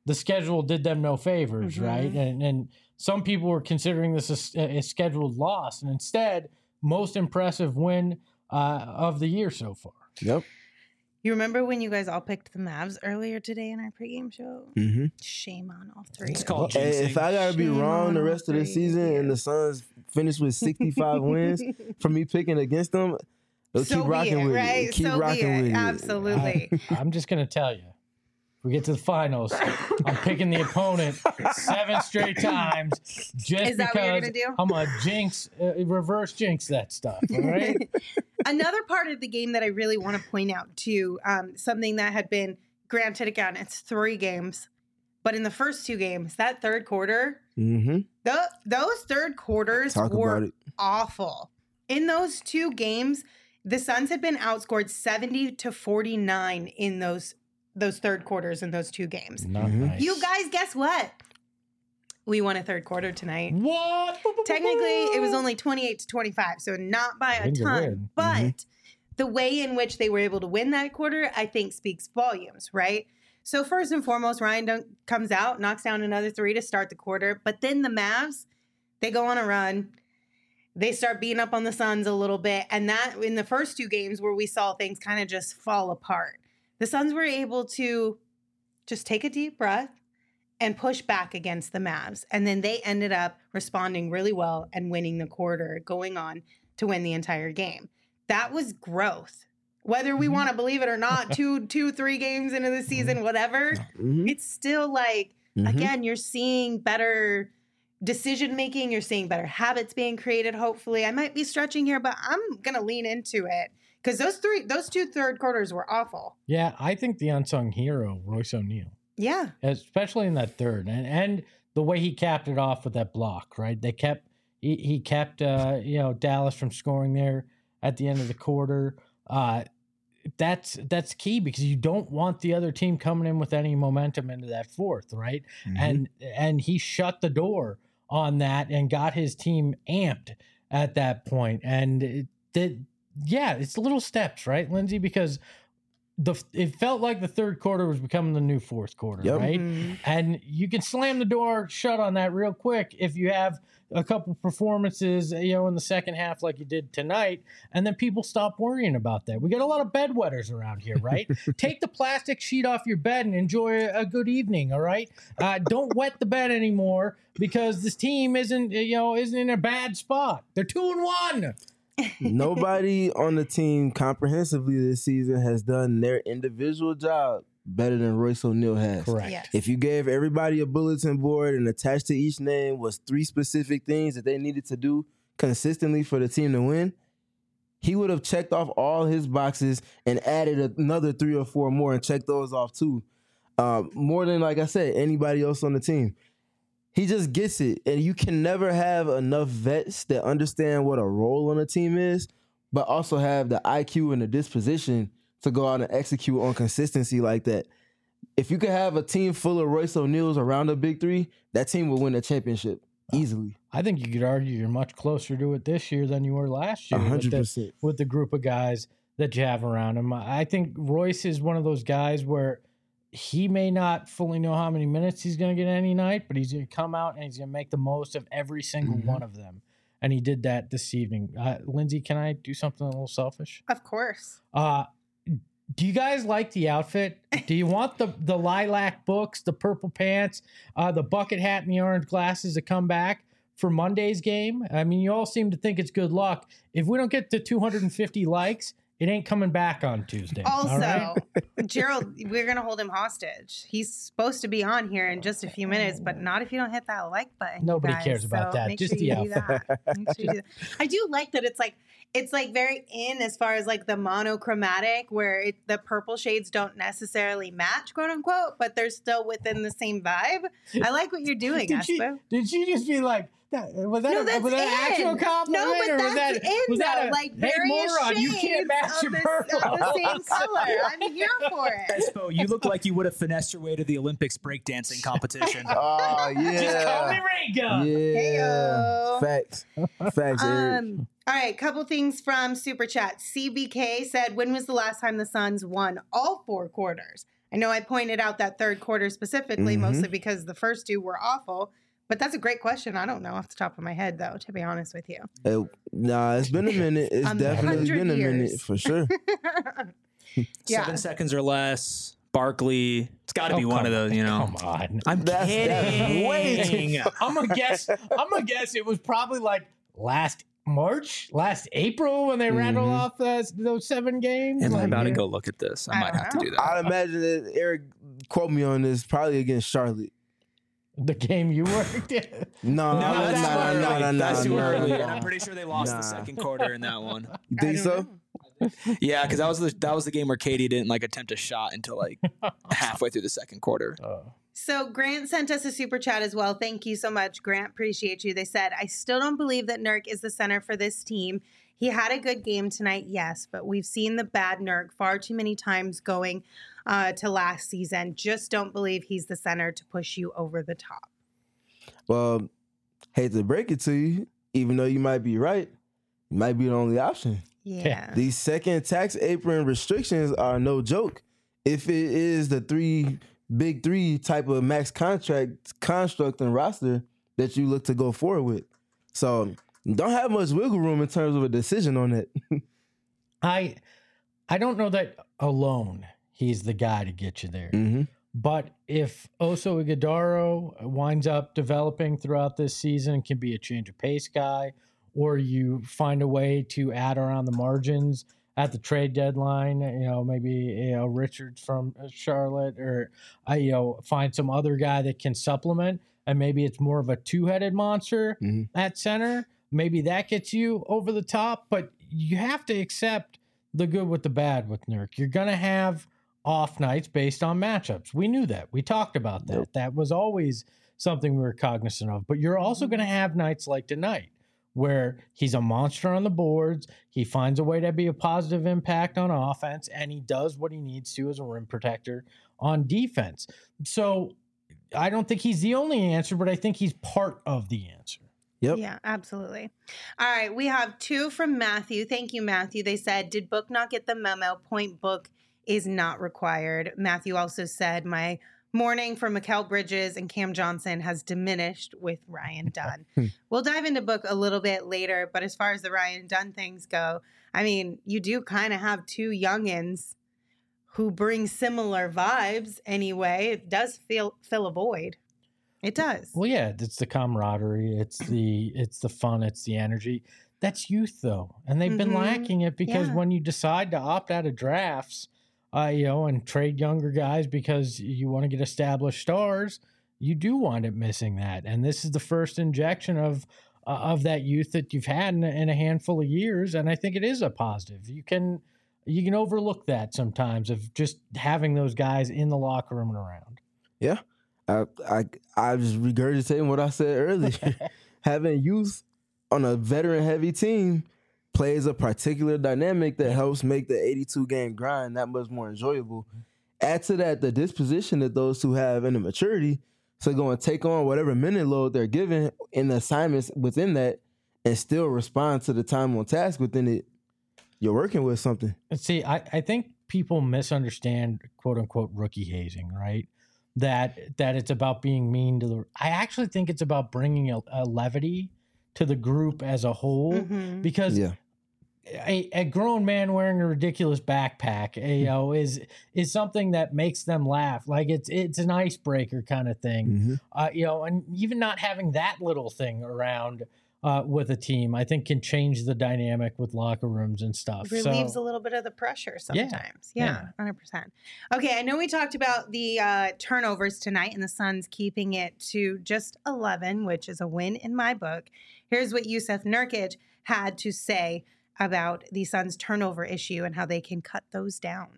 the schedule did them no favors, Mhm. right? And and some people were considering this a, a scheduled loss, and instead, most impressive win uh, of the year so far. Yep. You remember when you guys all picked the Mavs earlier today in our pregame show? Mm-hmm. Shame on all three. It's of called you. Hey, if I gotta be Shame wrong on the all rest of the three of season and you. the Suns finish with sixty-five wins for me picking against them, they'll So keep be rocking it, with right? it. Keep So be rocking it. with it. Absolutely. I, I'm just gonna tell you, if we get to the finals, I'm picking the opponent seven straight times just Is that what you're because gonna do? I'm a jinx, uh, reverse jinx that stuff. All right. Another part of the game that I really want to point out too, um, something that had been granted again, it's three games, but in the first two games, that third quarter, Mm-hmm. th- those third quarters Talk were about it. awful. In those two games, the Suns had been outscored seventy to forty-nine in those those third quarters in those two games. Not Mhm. nice. You guys, guess what? We won a third quarter tonight. What? Technically, it was only twenty-eight to twenty-five, so not by a Win's a ton. win. But Mhm. the way in which they were able to win that quarter, I think, speaks volumes, right? So first and foremost, Ryan Dunk comes out, knocks down another three to start the quarter. But then the Mavs, they go on a run. They start beating up on the Suns a little bit. And that in the first two games where we saw things kind of just fall apart, the Suns were able to just take a deep breath and push back against the Mavs. And then they ended up responding really well and winning the quarter, going on to win the entire game. That was growth. Whether we Mhm. want to believe it or not, two, two, three games into the season, whatever, Mm-hmm. it's still like, Mhm. again, you're seeing better decision making, you're seeing better habits being created, hopefully. I might be stretching here, but I'm gonna lean into it. Because those three, those two third quarters were awful. Yeah, I think the unsung hero, Royce O'Neal, Yeah. especially in that third, and and the way he capped it off with that block, right? They kept he, he kept uh, you know Dallas from scoring there at the end of the quarter. Uh, that's that's key because you don't want the other team coming in with any momentum into that fourth, right? Mhm. And and he shut the door on that and got his team amped at that point. And it did, yeah, it's little steps, right, Lindsay? Because the it felt like the third quarter was becoming the new fourth quarter, Yep. right? Mhm. And you can slam the door shut on that real quick if you have a couple performances, you know, in the second half like you did tonight, and then people stop worrying about that. We got a lot of bedwetters around here, right? Take the plastic sheet off your bed and enjoy a good evening, all right? Uh, don't wet the bed anymore because this team isn't, you know, isn't in a bad spot. They're two and one. Nobody on the team comprehensively this season has done their individual job better than Royce O'Neal has. Correct. Yes. If you gave everybody a bulletin board and attached to each name was three specific things that they needed to do consistently for the team to win, he would have checked off all his boxes and added another three or four more and checked those off too. Uh, more than, like I said, anybody else on the team. He just gets it. And you can never have enough vets that understand what a role on a team is, but also have the I Q and the disposition to go out and execute on consistency like that. If you could have a team full of Royce O'Neals around the big three, that team will win the championship easily. I think you could argue you're much closer to it this year than you were last year A with hundred the, percent. with the group of guys that you have around him. I think Royce is one of those guys where he may not fully know how many minutes he's going to get any night, but he's going to come out and he's going to make the most of every single Mhm. one of them. And he did that this evening. Uh, Lindsay, can I do something a little selfish? Of course. Uh, do you guys like the outfit? Do you want the, the lilac books, the purple pants, uh, the bucket hat, and the orange glasses to come back for Monday's game? I mean, you all seem to think it's good luck. If we don't get to two hundred fifty likes, it ain't coming back on Tuesday. all Also, right? Gerald, we're going to hold him hostage. He's supposed to be on here in just a few minutes, but not if you don't hit that like button. you Nobody guys. cares about So that. make Just sure the you do outfit. that. Make sure you do that. I do like that it's like it's like very in as far as like the monochromatic where it, the purple shades don't necessarily match, quote unquote, but they're still within the same vibe. I like what you're doing, Did she, Espo. did she just be like, that, was that, No, a, that's was that an actual in. compliment? No, but or was that's that, in, was that though, a, like, hey, various moron, you can't shades match of your the- purple. of the same color. I'm here for it. Espo, you look like you would have finessed your way to the Olympics breakdancing competition. Oh, yeah. Just call me Ringo. Yeah. Heyo. Facts. Facts, Eric. Um, all right, couple things from Super Chat. C B K said, when was the last time the Suns won all four quarters? I know I pointed out that third quarter specifically, Mhm. mostly because the first two were awful. But that's a great question. I don't know off the top of my head, though, to be honest with you. It, nah, it's been a minute. It's Um, definitely hundred been a minute years. for sure. Yeah. Seven seconds or less. Barkley. It's got to Oh, be one come of those, you know. Come on. I'm That's- that's kidding. way too I'm gonna guess. I'm gonna guess it was probably like last March, last April when they rattled Mhm. off those, those seven games. Am I Like, about to yeah. go look at this? I, I might don't have to know. do that. I'd imagine that Eric, quote me on this, probably against Charlotte. The game you worked in. No, No, no, that's no, too no, early. no, no, That's too no, early. no. And I'm pretty sure they lost Nah. the second quarter in that one. You I think don't so? know. Yeah, because that was the that was the game where Katie didn't like attempt a shot until like halfway through the second quarter. Uh, So Grant sent us a super chat as well. Thank you so much, Grant. Appreciate you. They said, I still don't believe that Nurk is the center for this team. He had a good game tonight, yes, but we've seen the bad Nurk far too many times going uh, to last season. Just don't believe he's the center to push you over the top. Well, hate to break it to you, even though you might be right, you might be the only option. Yeah. These second tax apron restrictions are no joke. If it is the three big three type of max contract construct and roster that you look to go forward with. So don't have much wiggle room in terms of a decision on it. I I don't know that alone he's the guy to get you there. Mm-hmm. But if Oso Ighodaro winds up developing throughout this season and can be a change of pace guy, or you find a way to add around the margins at the trade deadline, you know, maybe, you know, Richards from Charlotte, or, uh, you know, find some other guy that can supplement, and maybe it's more of a two-headed monster Mhm. at center. Maybe that gets you over the top, but you have to accept the good with the bad with Nurk. You're going to have off nights based on matchups. We knew that. We talked about that. Yep. That was always something we were cognizant of. But you're also going to have nights like tonight where he's a monster on the boards. He finds a way to be a positive impact on offense, and he does what he needs to as a rim protector on defense. So I don't think he's the only answer, but I think he's part of the answer. Yep. Yeah, absolutely. All right, we have two from Matthew. Thank you, Matthew. They said, did Book not get the memo? Point Book is not required. Matthew also said, my morning for Mikal Bridges and Cam Johnson has diminished with Ryan Dunn. We'll dive into Book a little bit later, but as far as the Ryan Dunn things go, I mean, you do kind of have two youngins who bring similar vibes anyway. It does feel fill a void. It does. Well, yeah, it's the camaraderie, it's the it's the fun, it's the energy. That's youth, though, and they've been Mhm. lacking it because Yeah. when you decide to opt out of drafts, uh, you know, and trade younger guys because you want to get established stars, you do wind up missing that. And this is the first injection of uh, of that youth that you've had in a, in a handful of years, and I think it is a positive. You can you can overlook that sometimes of just having those guys in the locker room and around. Yeah. I I I just regurgitating what I said earlier. Having youth on a veteran heavy team plays a particular dynamic that helps make the eighty-two game grind that much more enjoyable. Add to that the disposition that those two have and the maturity to go and take on whatever minute load they're given in the assignments within that and still respond to the time on task within it. You're working with something. See, I, I think people misunderstand quote unquote rookie hazing, right? That that it's about being mean to the. I actually think it's about bringing a, a levity to the group as a whole, Mhm. because Yeah. a, a grown man wearing a ridiculous backpack, eh, you know, is is something that makes them laugh. Like it's it's an icebreaker kind of thing, Mm-hmm. uh, you know, and even not having that little thing around uh, with a team, I think can change the dynamic with locker rooms and stuff. relieves so, a little bit of the pressure Yeah, sometimes. yeah. Yeah, one hundred percent. Okay, I know we talked about the uh, turnovers tonight and the Suns keeping it to just eleven, which is a win in my book. Here's what Yusuf Nurkic had to say about the Suns' turnover issue and how they can cut those down.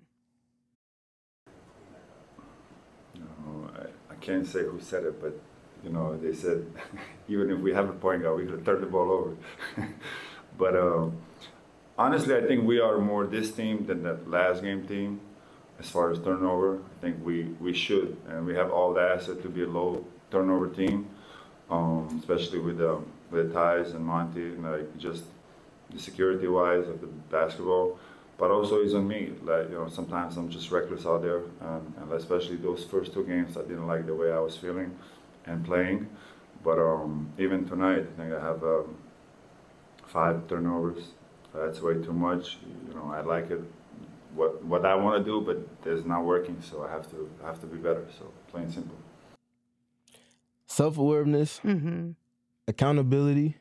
No, I, I can't say who said it, but you know, they said even if we have a point guard, we could turn the ball over. But um, honestly, I think we are more this team than that last game team as far as turnover. I think we, we should, and we have all the assets to be a low turnover team, um, especially with um, with Tyus and Monty, and like just the security wise of the basketball. but also it's on me. Like, you know, sometimes I'm just reckless out there, and, and especially those first two games, I didn't like the way I was feeling and playing. But um, even tonight, I think I have um, five turnovers. That's way too much. You know, I like it, what what I want to do, but it's not working. So I have to I have to be better. So plain simple. Self-awareness, Mm-hmm. accountability,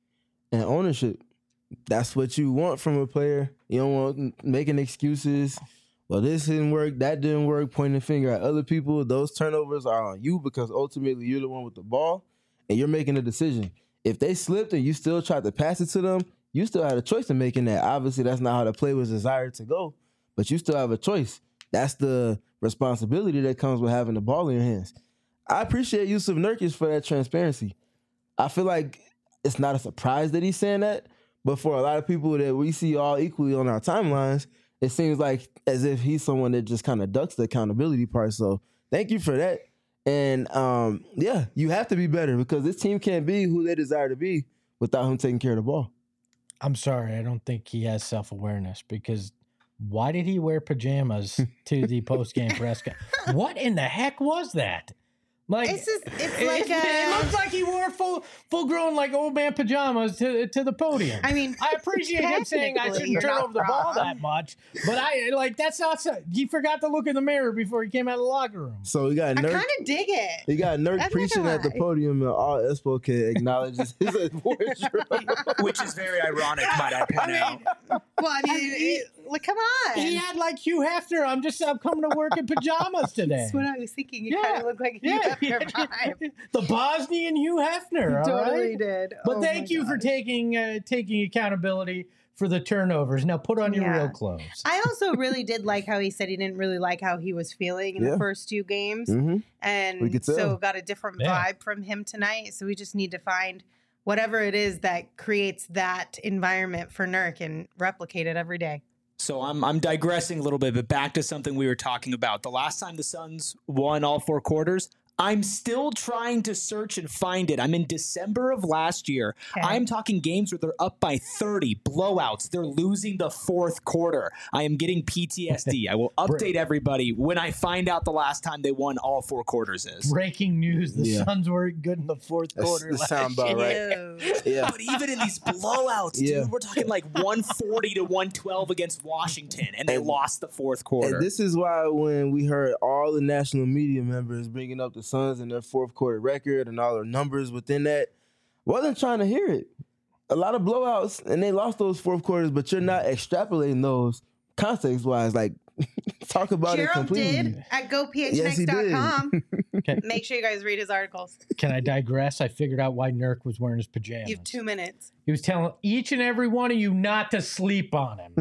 and ownership. That's what you want from a player. You don't want making excuses. Well, this didn't work, that didn't work, pointing the finger at other people. Those turnovers are on you because ultimately you're the one with the ball and you're making a decision. If they slipped and you still tried to pass it to them, you still had a choice in making that. Obviously, that's not how the play was desired to go, but you still have a choice. That's the responsibility that comes with having the ball in your hands. I appreciate Jusuf Nurkic for that transparency. I feel like it's not a surprise that he's saying that, but for a lot of people that we see all equally on our timelines, it seems like as if he's someone that just kind of ducks the accountability part. So thank you for that. And um, yeah, you have to be better because this team can't be who they desire to be without him taking care of the ball. I'm sorry, I don't think he has self-awareness because why did he wear pajamas to the post-game press conference? What in the heck was that? Like, It's just, it's it, like it, a, it looks like he wore full, full-grown like old man pajamas to to the podium. I mean, I appreciate him saying I technically, shouldn't you're turn not over the ball wrong. that much, but I like that's not. so- He forgot to look in the mirror before he came out of the locker room. So we got I Nurk. kind of dig it. He got Nurk I'm not preaching gonna at the lie. podium, and all Espo can acknowledge his wardrobe. Which is very ironic, might I point out. Well, I mean, it, like, come on. He had like Hugh Hefner. I'm just I'm coming to work in pajamas today. That's what I was thinking. You Yeah. kind of look like you Yeah, have your vibe. the Bosnian Hugh Hefner. all Totally right? did. But Oh thank my you for gosh. taking uh, taking accountability for the turnovers. Now put on your Yeah. real clothes. I also really did like how he said he didn't really like how he was feeling in Yeah. the first two games. Mm-hmm. We And could so tell. got a different Yeah. vibe from him tonight. So we just need to find whatever it is that creates that environment for Nurk and replicate it every day. So I'm I'm digressing a little bit, but back to something we were talking about. The last time the Suns won all four quarters, I'm still trying to search and find it. I'm in December of last year. Okay. I'm talking games where they're up by thirty, blowouts. They're losing the fourth quarter. I am getting P T S D. I will update everybody when I find out the last time they won all four quarters is. Breaking news: the Yeah. Suns weren't good in the fourth That's- quarter. that last sound about year. right. Ew. Yeah. But even in these blowouts, dude, Yeah. we're talking like one forty to one twelve against Washington, and they And- lost the fourth quarter. And this is why when we heard all the national media members bringing up the Suns and their fourth quarter record and all the numbers within that, wasn't trying to hear it. A lot of blowouts, and they lost those fourth quarters, but you're not extrapolating those context-wise. Like, talk about it Gerald completely. did at go p h Yes, next he dot did. com. Okay. Make sure you guys read his articles. Can I digress? I figured out why Nurk was wearing his pajamas. You have two minutes. He was telling each and every one of you not to sleep on him.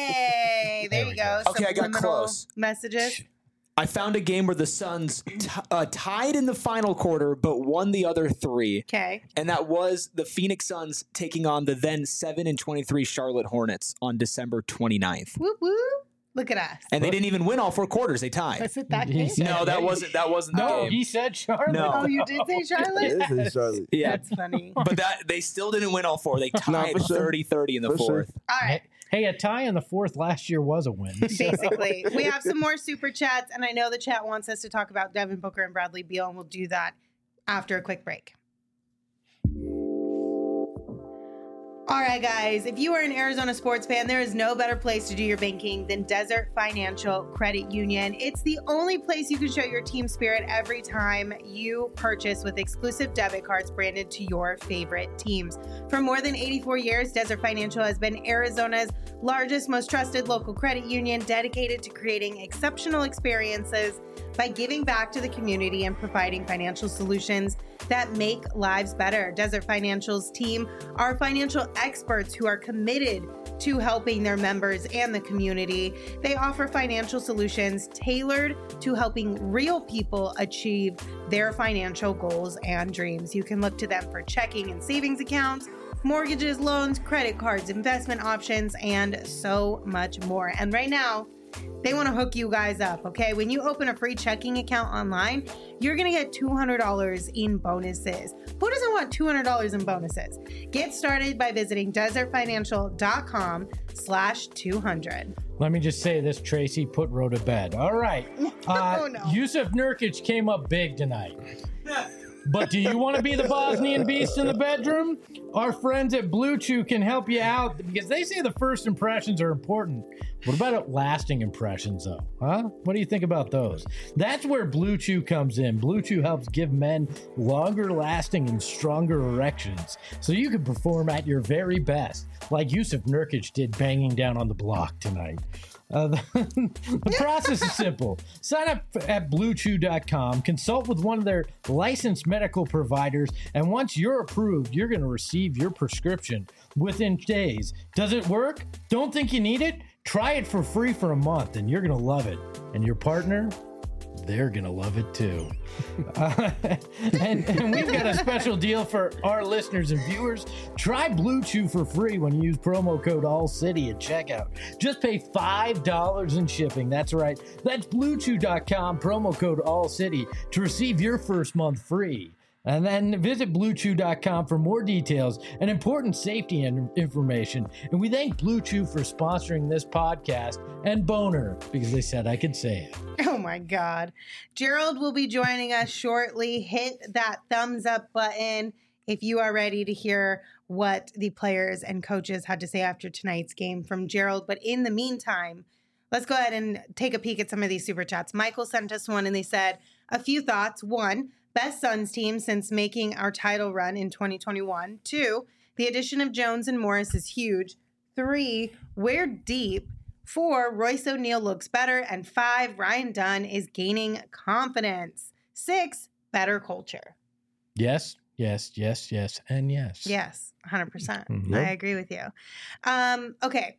Hey, there, There you we go. go. Okay, I got Subliminal close. Messages. I found a game where the Suns t- uh, tied in the final quarter, but won the other three, Okay. and that was the Phoenix Suns taking on the then seven and twenty-three Charlotte Hornets on December twenty-ninth. Whoop whoop. Look at us. And they didn't even win all four quarters; they tied. Was it that He game? said- No, that wasn't that wasn't the No, game. he said Charlotte. No. Oh, you did say Charlotte? It is in Charlotte. Yeah, That's funny. but that they still didn't win all four. They Nah, tied for sure. thirty thirty in the For sure. fourth. All right. Hey, a tie in the fourth last year was a win. Basically, we have some more super chats, and I know the chat wants us to talk about Devin Booker and Bradley Beal, and we'll do that after a quick break. All right, guys, if you are an Arizona sports fan, there is no better place to do your banking than Desert Financial Credit Union. It's the only place you can show your team spirit every time you purchase with exclusive debit cards branded to your favorite teams. For more than eighty-four years, Desert Financial has been Arizona's largest, most trusted local credit union dedicated to creating exceptional experiences by giving back to the community and providing financial solutions that make lives better. Desert Financial's team are financial experts who are committed to helping their members and the community. They offer financial solutions tailored to helping real people achieve their financial goals and dreams. You can look to them for checking and savings accounts, mortgages, loans, credit cards, investment options, and so much more. And right now, They want to hook you guys up, okay? When you open a free checking account online, you're going to get two hundred dollars in bonuses. Who doesn't want two hundred dollars in bonuses? Get started by visiting desertfinancial.com slash 200. Let me just say this, Tracy put Ro to bed. All right. Uh, Oh, no. Yusuf Nurkic came up big tonight. But do you want to be the Bosnian beast in the bedroom? Our friends at Blue Chew can help you out because they say the first impressions are important. What about lasting impressions, though? Huh? What do you think about those? That's where Blue Chew comes in. Blue Chew helps give men longer lasting and stronger erections so you can perform at your very best, like Yusuf Nurkic did banging down on the block tonight. Uh, the, the process is simple. Sign up at blue chew dot com, consult with one of their licensed medical providers, and once you're approved, you're going to receive your prescription within days. Does it work? Don't think you need it? Try it for free for a month, and you're going to love it. And your partner? They're going to love it too. Uh, and, and we've got a special deal for our listeners and viewers. Try Blue Chew for free when you use promo code ALLCITY at checkout. Just pay five dollars in shipping. That's right. That's blue chew dot com, promo code ALLCITY to receive your first month free. And then visit blue chew dot com for more details and important safety and information. And we thank Blue Chew for sponsoring this podcast and Boner because they said I could say it. Oh my God. Gerald will be joining us shortly. Hit that thumbs up button if you are ready to hear what the players and coaches had to say after tonight's game from Gerald. But in the meantime, let's go ahead and take a peek at some of these super chats. Michael sent us one and they said a few thoughts. One, best Suns team since making our title run in twenty twenty-one. Two, the addition of Jones and Morris is huge. Three, we're deep. Four, Royce O'Neal looks better. And five, Ryan Dunn is gaining confidence. Six, better culture. Yes, yes, yes, yes, and yes. Yes, one hundred percent. Mhm. I agree with you. Um, okay.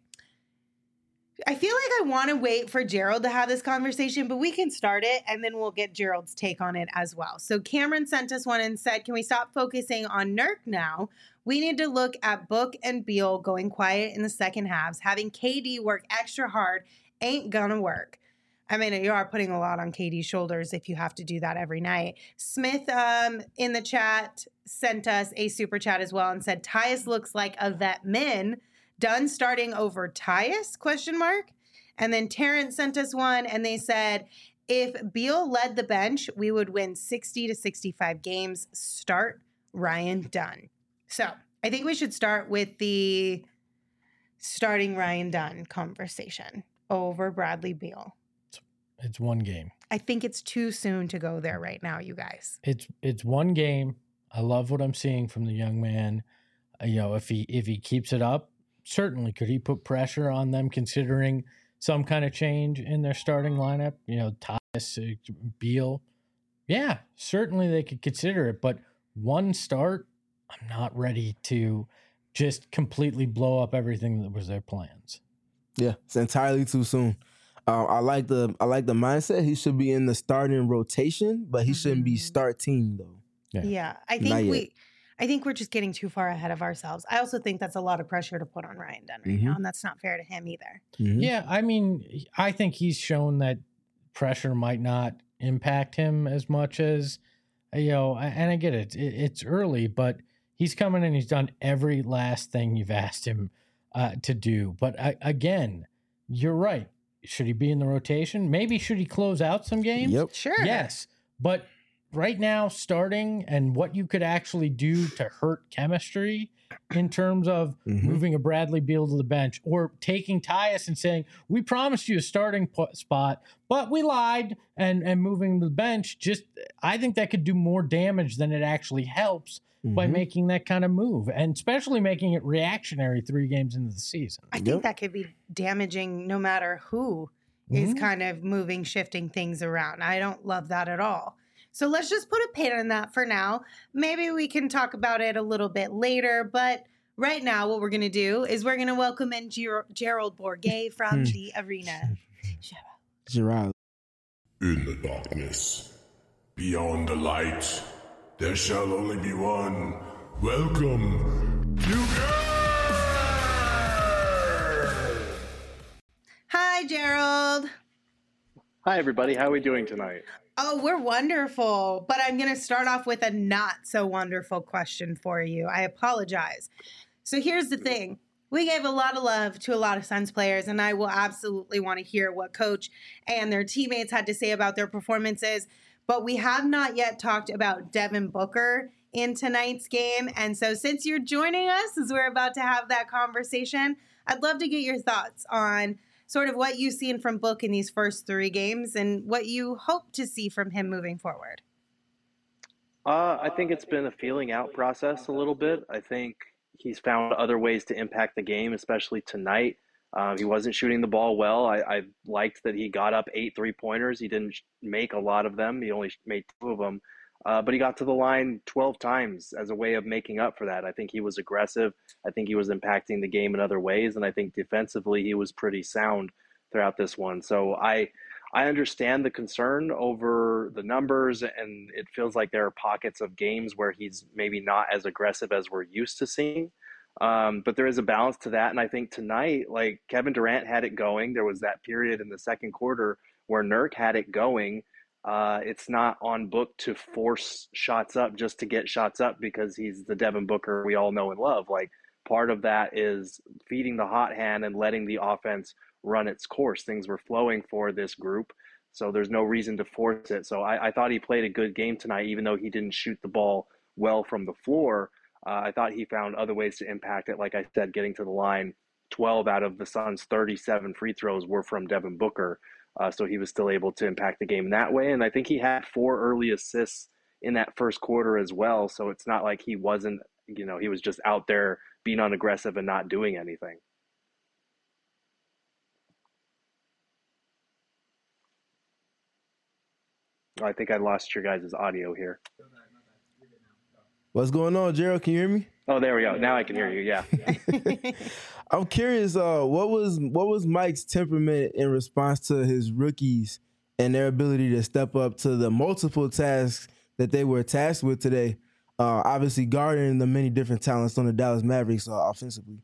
I feel like I want to wait for Gerald to have this conversation, but we can start it and then we'll get Gerald's take on it as well. So Cameron sent us one and said, can we stop focusing on Nurk now? We need to look at Book and Beal going quiet in the second halves. Having K D work extra hard ain't gonna work. I mean, you are putting a lot on K D's shoulders if you have to do that every night. Smith um, in the chat sent us a super chat as well and said, Tyus looks like a vet min. Dunn starting over Tyus, question mark. And then Terrence sent us one and they said, if Beal led the bench, we would win sixty to sixty-five games. Start Ryan Dunn. So I think we should start with the starting Ryan Dunn conversation over Bradley Beal. It's one game. I think it's too soon to go there right now, you guys. It's it's one game. I love what I'm seeing from the young man. Uh, you know, if he if he keeps it up, certainly could he put pressure on them considering some kind of change in their starting lineup? You know, Tyus, uh, Beal. Yeah, certainly they could consider it, but one start, I'm not ready to just completely blow up everything that was their plans. Yeah, it's entirely too soon. Uh, I like the I like the mindset. He should be in the starting rotation, but he mm-hmm. shouldn't be starting though. Yeah, yeah I think we, I think we're just getting too far ahead of ourselves. I also think that's a lot of pressure to put on Ryan Dunn right mm-hmm. now, and that's not fair to him either. Mm-hmm. Yeah, I mean, I think he's shown that pressure might not impact him as much as, you know, and I get it, it's early, but he's coming and he's done every last thing you've asked him uh, to do. But I, again, you're right. Should he be in the rotation? Maybe should he close out some games? Yep. Sure. Yes. But right now, starting and what you could actually do to hurt chemistry in terms of mm-hmm. moving a Bradley Beal to the bench or taking Tyus and saying, we promised you a starting p- spot, but we lied and, and moving to the bench. Just, I think that could do more damage than it actually helps mm-hmm. by making that kind of move, and especially making it reactionary three games into the season. I think yep. that could be damaging no matter who mm-hmm. is kind of moving, shifting things around. I don't love that at all. So let's just put a pin in that for now. Maybe we can talk about it a little bit later, but right now what we're going to do is we're going to welcome in Ger- Gerald Bourguet from the arena. Gerald. In the darkness, beyond the light, there shall only be one. Welcome to Hi, Gerald. Hi, everybody. How are we doing tonight? Oh, we're wonderful. But I'm going to start off with a not so wonderful question for you. I apologize. So here's the thing. We gave a lot of love to a lot of Suns players, and I will absolutely want to hear what coach and their teammates had to say about their performances. But we have not yet talked about Devin Booker in tonight's game. And so since you're joining us as we're about to have that conversation, I'd love to get your thoughts on sort of what you've seen from Book in these first three games and what you hope to see from him moving forward. Uh, I think it's been a feeling out process a little bit. I think he's found other ways to impact the game, especially tonight. Um, he wasn't shooting the ball well. I, I liked that he got up eight three-pointers. He didn't make a lot of them. He only made two of them. Uh, but he got to the line twelve times as a way of making up for that. I think he was aggressive. I think he was impacting the game in other ways. And I think defensively he was pretty sound throughout this one. So I I understand the concern over the numbers, and it feels like there are pockets of games where he's maybe not as aggressive as we're used to seeing. Um, but there is a balance to that. And I think tonight, like Kevin Durant had it going. There was that period in the second quarter where Nurk had it going. Uh, it's not on Book to force shots up just to get shots up because he's the Devin Booker we all know and love. Like, part of that is feeding the hot hand and letting the offense run its course. Things were flowing for this group, so there's no reason to force it. So I, I thought he played a good game tonight, even though he didn't shoot the ball well from the floor. Uh, I thought he found other ways to impact it. Like I said, getting to the line, twelve out of the Suns' thirty-seven free throws were from Devin Booker. Uh, so he was still able to impact the game that way. And I think he had four early assists in that first quarter as well. So it's not like he wasn't, you know, he was just out there being unaggressive and not doing anything. I think I lost your guys' audio here. What's going on, Gerald? Can you hear me? Oh, there we go. Now I can hear you. Yeah. I'm curious. Uh, what was what was Mike's temperament in response to his rookies and their ability to step up to the multiple tasks that they were tasked with today? Uh, obviously, guarding the many different talents on the Dallas Mavericks uh, offensively.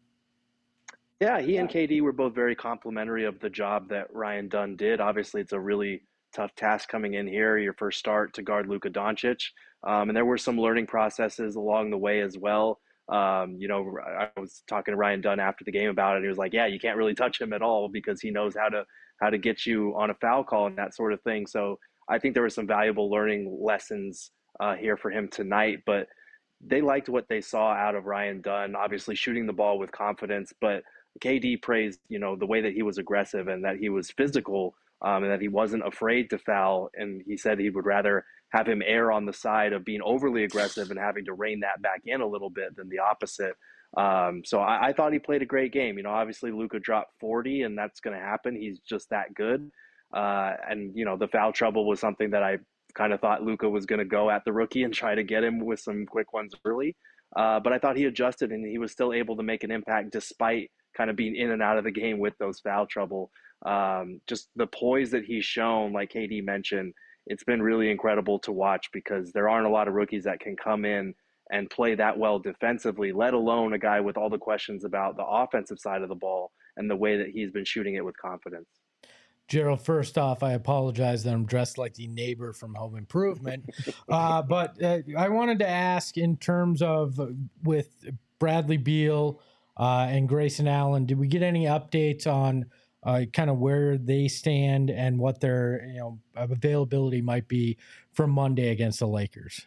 Yeah, he and K D were both very complimentary of the job that Ryan Dunn did. Obviously, it's a really tough task coming in here, your first start to guard Luka Doncic. Um, and there were some learning processes along the way as well. Um, you know, I was talking to Ryan Dunn after the game about it. And he was like, yeah, you can't really touch him at all because he knows how to how to get you on a foul call and that sort of thing. So I think there were some valuable learning lessons uh, here for him tonight. But they liked what they saw out of Ryan Dunn, obviously shooting the ball with confidence. But K D praised, you know, the way that he was aggressive and that he was physical um, and that he wasn't afraid to foul. And he said he would rather have him err on the side of being overly aggressive and having to rein that back in a little bit than the opposite. Um, so I, I thought he played a great game. You know, obviously Luka dropped forty, and that's going to happen. He's just that good. Uh, and, you know, the foul trouble was something that I kind of thought Luka was going to go at the rookie and try to get him with some quick ones early. Uh, but I thought he adjusted and he was still able to make an impact despite kind of being in and out of the game with those foul trouble. Um, just the poise that he's shown, like K D mentioned, it's been really incredible to watch because there aren't a lot of rookies that can come in and play that well defensively, let alone a guy with all the questions about the offensive side of the ball and the way that he's been shooting it with confidence. Gerald, first off, I apologize that I'm dressed like the neighbor from Home Improvement. uh, but uh, I wanted to ask in terms of uh, with Bradley Beal uh, and Grayson Allen, did we get any updates on uh, kind of where they stand and what their you know availability might be for Monday against the Lakers?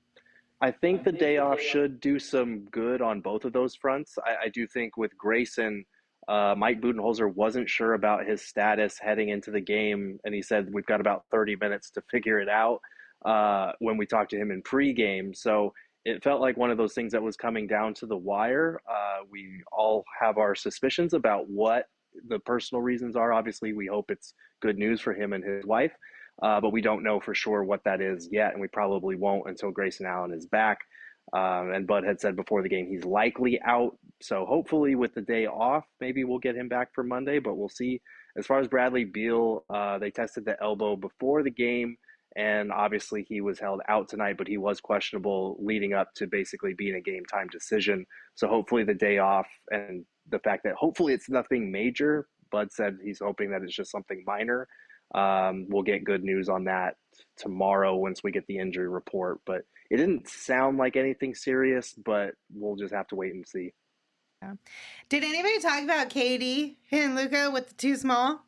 I think the day off should do some good on both of those fronts. I, I do think with Grayson, uh, Mike Budenholzer wasn't sure about his status heading into the game, and he said we've got about thirty minutes to figure it out uh, when we talked to him in pregame. So it felt like one of those things that was coming down to the wire. Uh, we all have our suspicions about what the personal reasons are. Obviously, we hope it's good news for him and his wife. Uh, but we don't know for sure what that is yet, and we probably won't until Grayson Allen is back. Um, and Bud had said before the game he's likely out. So hopefully with the day off, maybe we'll get him back for Monday, but we'll see. As far as Bradley Beal, uh, they tested the elbow before the game, and obviously he was held out tonight, but he was questionable leading up to basically being a game time decision. So hopefully the day off and the fact that hopefully it's nothing major. Bud said he's hoping that it's just something minor. Um, we'll get good news on that tomorrow once we get the injury report. But it didn't sound like anything serious, but we'll just have to wait and see. Yeah. Did anybody talk about K D and Luka with the too small?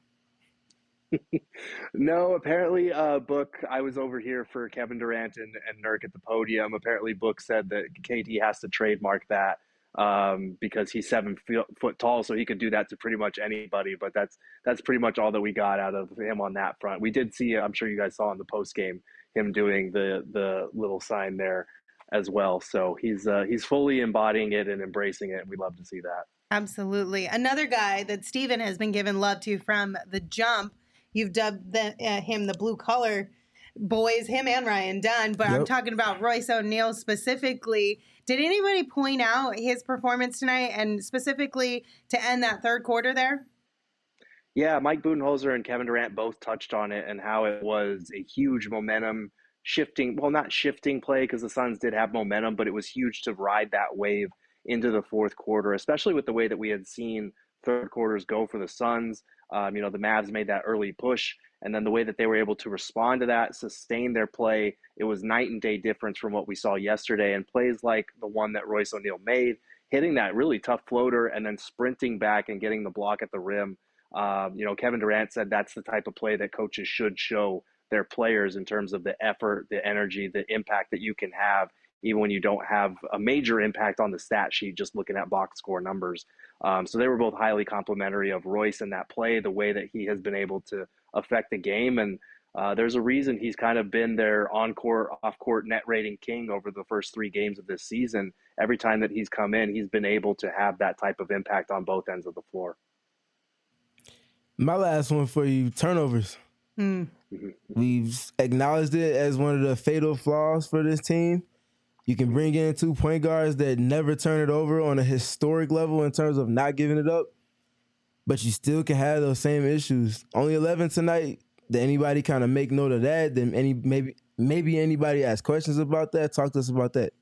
No, apparently, uh, Book, I was over here for Kevin Durant and, and Nurk at the podium. Apparently, Book said that K D has to trademark that um, because he's seven foot, foot tall, so he could do that to pretty much anybody. But that's that's pretty much all that we got out of him on that front. We did see, I'm sure you guys saw in the post game, him doing the the little sign there as well. So he's uh, he's fully embodying it and embracing it, and we love to see that. Absolutely. Another guy that Steven has been given love to from the jump. You've dubbed the, uh, him the blue collar boys, him and Ryan Dunn, but yep. I'm talking about Royce O'Neal specifically. Did anybody point out his performance tonight and specifically to end that third quarter there? Yeah, Mike Budenholzer and Kevin Durant both touched on it and how it was a huge momentum shifting, well, not shifting play because the Suns did have momentum, but it was huge to ride that wave into the fourth quarter, especially with the way that we had seen third quarters go for the Suns. Um, you know, the Mavs made that early push, and then the way that they were able to respond to that, sustain their play, it was night and day difference from what we saw yesterday. And plays like the one that Royce O'Neal made, hitting that really tough floater and then sprinting back and getting the block at the rim. Um, you know, Kevin Durant said that's the type of play that coaches should show their players in terms of the effort, the energy, the impact that you can have, even when you don't have a major impact on the stat sheet, just looking at box score numbers. Um, so they were both highly complimentary of Royce in that play, the way that he has been able to affect the game. And uh, there's a reason he's kind of been their on-court, off-court net rating king over the first three games of this season. Every time that he's come in, he's been able to have that type of impact on both ends of the floor. My last one for you, turnovers. Mm. We've acknowledged it as one of the fatal flaws for this team. You can bring in two point guards that never turn it over on a historic level in terms of not giving it up, but you still can have those same issues. Only eleven tonight. Did anybody kind of make note of that? Then any maybe maybe anybody ask questions about that? Talk to us about that.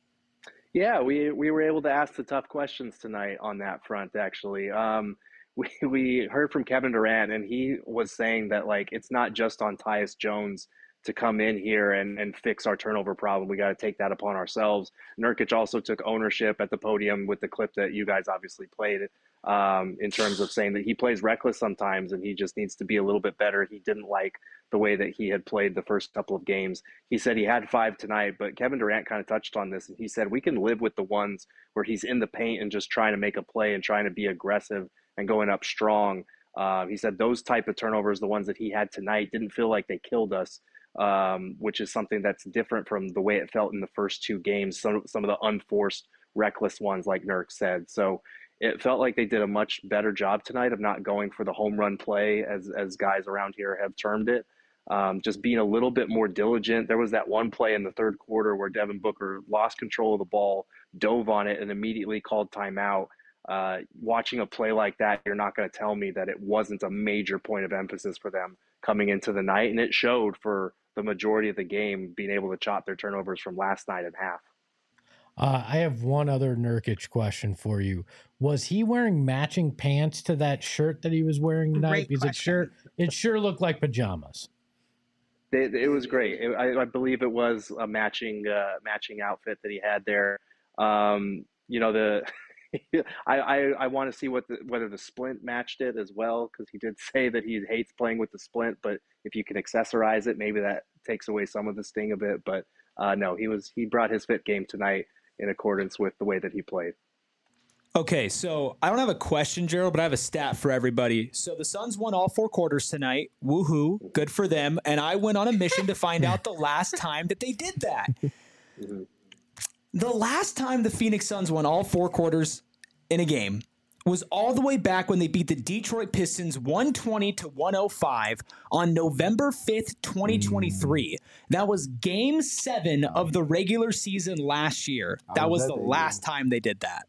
Yeah, we we were able to ask the tough questions tonight on that front, actually. Um, we, we heard from Kevin Durant, and he was saying that, like, it's not just on Tyus Jones to come in here and, and fix our turnover problem. We got to take that upon ourselves. Nurkic also took ownership at the podium with the clip that you guys obviously played um, in terms of saying that he plays reckless sometimes and he just needs to be a little bit better. He didn't like the way that he had played the first couple of games. He said he had five tonight, but Kevin Durant kind of touched on this, and he said we can live with the ones where he's in the paint and just trying to make a play and trying to be aggressive and going up strong. Uh, he said those type of turnovers, the ones that he had tonight, didn't feel like they killed us. Um, which is something that's different from the way it felt in the first two games, some, some of the unforced, reckless ones, like Nurk said. So it felt like they did a much better job tonight of not going for the home run play, as, as guys around here have termed it, um, just being a little bit more diligent. There was that one play in the third quarter where Devin Booker lost control of the ball, dove on it, and immediately called timeout. Uh, watching a play like that, you're not going to tell me that it wasn't a major point of emphasis for them coming into the night, and it showed for the majority of the game, being able to chop their turnovers from last night in half. Uh, I have one other Nurkic question for you. Was he wearing matching pants to that shirt that he was wearing tonight? Great because question. it sure it sure looked like pajamas. It, it was great. It, I, I believe it was a matching uh, matching outfit that he had there. Um, you know, the I, I, I want to see what the, whether the splint matched it as well, because he did say that he hates playing with the splint, but if you can accessorize it, maybe that takes away some of the sting of it. But uh, no, he was he brought his fit game tonight in accordance with the way that he played. Okay, so I don't have a question, Gerald, but I have a stat for everybody. So the Suns won all four quarters tonight. Woohoo, good for them. And I went on a mission to find out the last time that they did that. Mm-hmm. The last time the Phoenix Suns won all four quarters in a game was all the way back when they beat the Detroit Pistons one twenty to one oh five on November fifth, twenty twenty-three. That was game seven of the regular season last year. That was the last time they did that.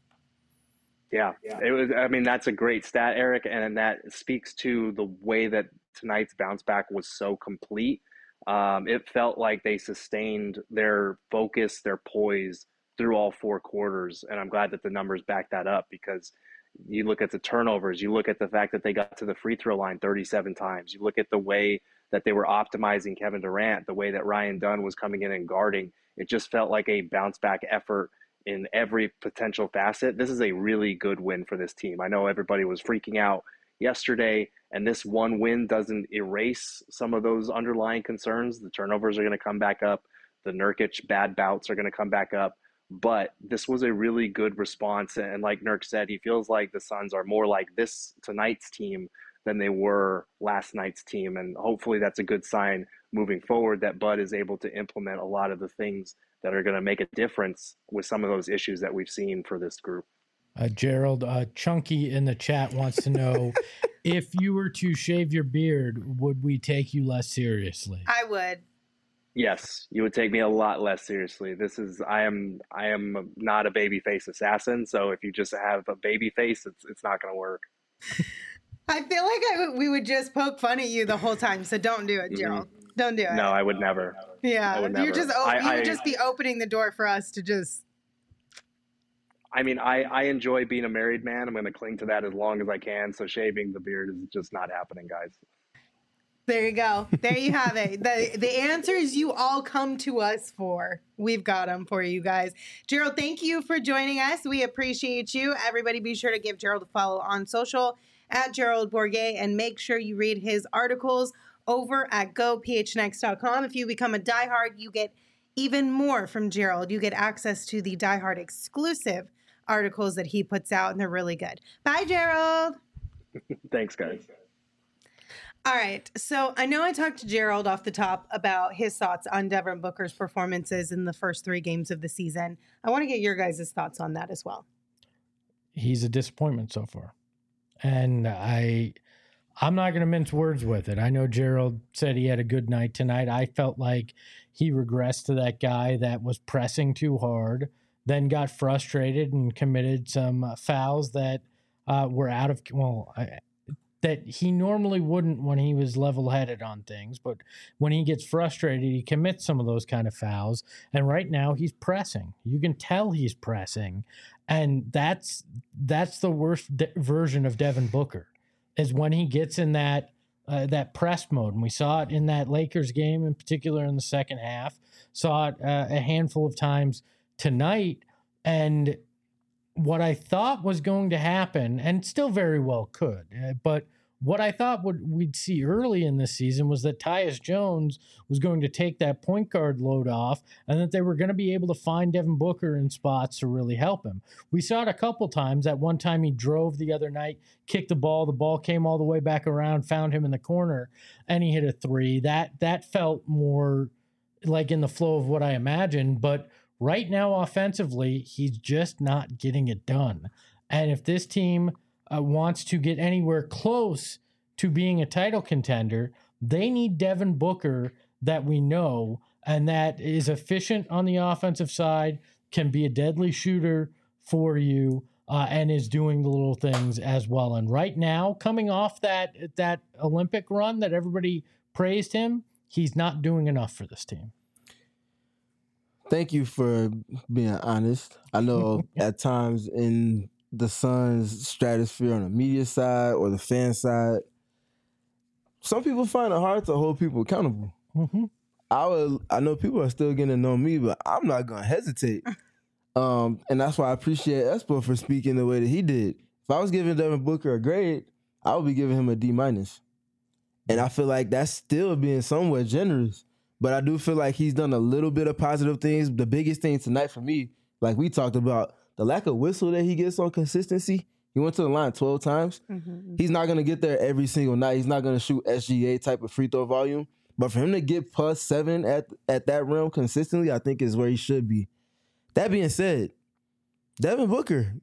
Yeah, it was. I mean, that's a great stat, Eric, and that speaks to the way that tonight's bounce back was so complete. Um, it felt like they sustained their focus, their poise through all four quarters, and I'm glad that the numbers back that up, because You look at the turnovers, you look at the fact that they got to the free throw line thirty-seven times. You look at the way that they were optimizing Kevin Durant, the way that Ryan Dunn was coming in and guarding. It just felt like a bounce back effort in every potential facet. This is a really good win for this team. I know everybody was freaking out yesterday, and this one win doesn't erase some of those underlying concerns. The turnovers are going to come back up. The Nurkic bad bouts are going to come back up. But this was a really good response. And like Nurk said, he feels like the Suns are more like this tonight's team than they were last night's team. And hopefully that's a good sign moving forward that Bud is able to implement a lot of the things that are going to make a difference with some of those issues that we've seen for this group. Uh, Gerald, uh, Chunky in the chat wants to know, if you were to shave your beard, would we take you less seriously? I would. Yes, you would take me a lot less seriously. This is I am I am not a babyface assassin, so if you just have a baby face, it's it's not going to work. I feel like I w- we would just poke fun at you the whole time, so don't do it, Gerald. Mm-hmm. Don't do it. No, I would never. Yeah, would never. you're just o- I, you would I, just be opening the door for us to just. I mean, I, I enjoy being a married man. I'm going to cling to that as long as I can. So shaving the beard is just not happening, guys. There you go. There you have it. The the answers you all come to us for. We've got them for you guys. Gerald, thank you for joining us. We appreciate you. Everybody be sure to give Gerald a follow on social at Gerald Bourguet, and make sure you read his articles over at go p h n x dot com. If you become a diehard, you get even more from Gerald. You get access to the diehard exclusive articles that he puts out, and they're really good. Bye, Gerald. Thanks, guys. All right. So I know I talked to Gerald off the top about his thoughts on Devin Booker's performances in the first three games of the season. I want to get your guys' thoughts on that as well. He's a disappointment so far. And I, I'm not going to mince words with it. I know Gerald said he had a good night tonight. I felt like he regressed to that guy that was pressing too hard, then got frustrated and committed some uh, fouls that uh, were out of, well, I, that he normally wouldn't when he was level-headed on things. But when he gets frustrated, he commits some of those kind of fouls. And right now he's pressing. You can tell he's pressing. And that's that's the worst de- version of Devin Booker, is when he gets in that uh, that press mode. And we saw it in that Lakers game, in particular in the second half. Saw it uh, a handful of times tonight. And what I thought was going to happen, and still very well could, uh, but what I thought would we'd see early in this season was that Tyus Jones was going to take that point guard load off, and that they were going to be able to find Devin Booker in spots to really help him. We saw it a couple times. At one time he drove the other night, kicked the ball, the ball came all the way back around, found him in the corner, and he hit a three. That that felt more like in the flow of what I imagined, but right now offensively, he's just not getting it done. And if this team Uh, wants to get anywhere close to being a title contender, they need Devin Booker that we know, and that is efficient on the offensive side, can be a deadly shooter for you, uh, and is doing the little things as well. And right now, coming off that that Olympic run that everybody praised him, he's not doing enough for this team. Thank you for being honest. I know at times in the Suns' stratosphere on the media side or the fan side, some people find it hard to hold people accountable. Mm-hmm. I would, I know people are still getting to know me, but I'm not going to hesitate. Um, and that's why I appreciate Espo for speaking the way that he did. If I was giving Devin Booker a grade, I would be giving him a D minus. And I feel like that's still being somewhat generous. But I do feel like he's done a little bit of positive things. The biggest thing tonight for me, like we talked about, the lack of whistle that he gets on consistency. He went to the line twelve times. Mm-hmm. He's not going to get there every single night. He's not going to shoot S G A type of free throw volume. But for him to get plus seven at, at that realm consistently, I think is where he should be. That being said, Devin Booker,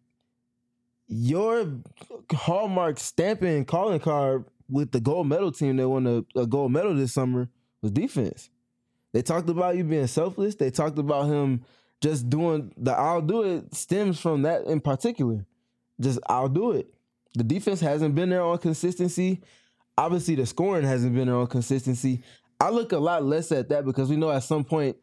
your hallmark stamping calling card with the gold medal team that won a, a gold medal this summer was defense. They talked about you being selfless. They talked about him just doing the I'll do it stems from that in particular. Just I'll do it. The defense hasn't been there on consistency. Obviously, the scoring hasn't been there on consistency. I look a lot less at that because we know at some point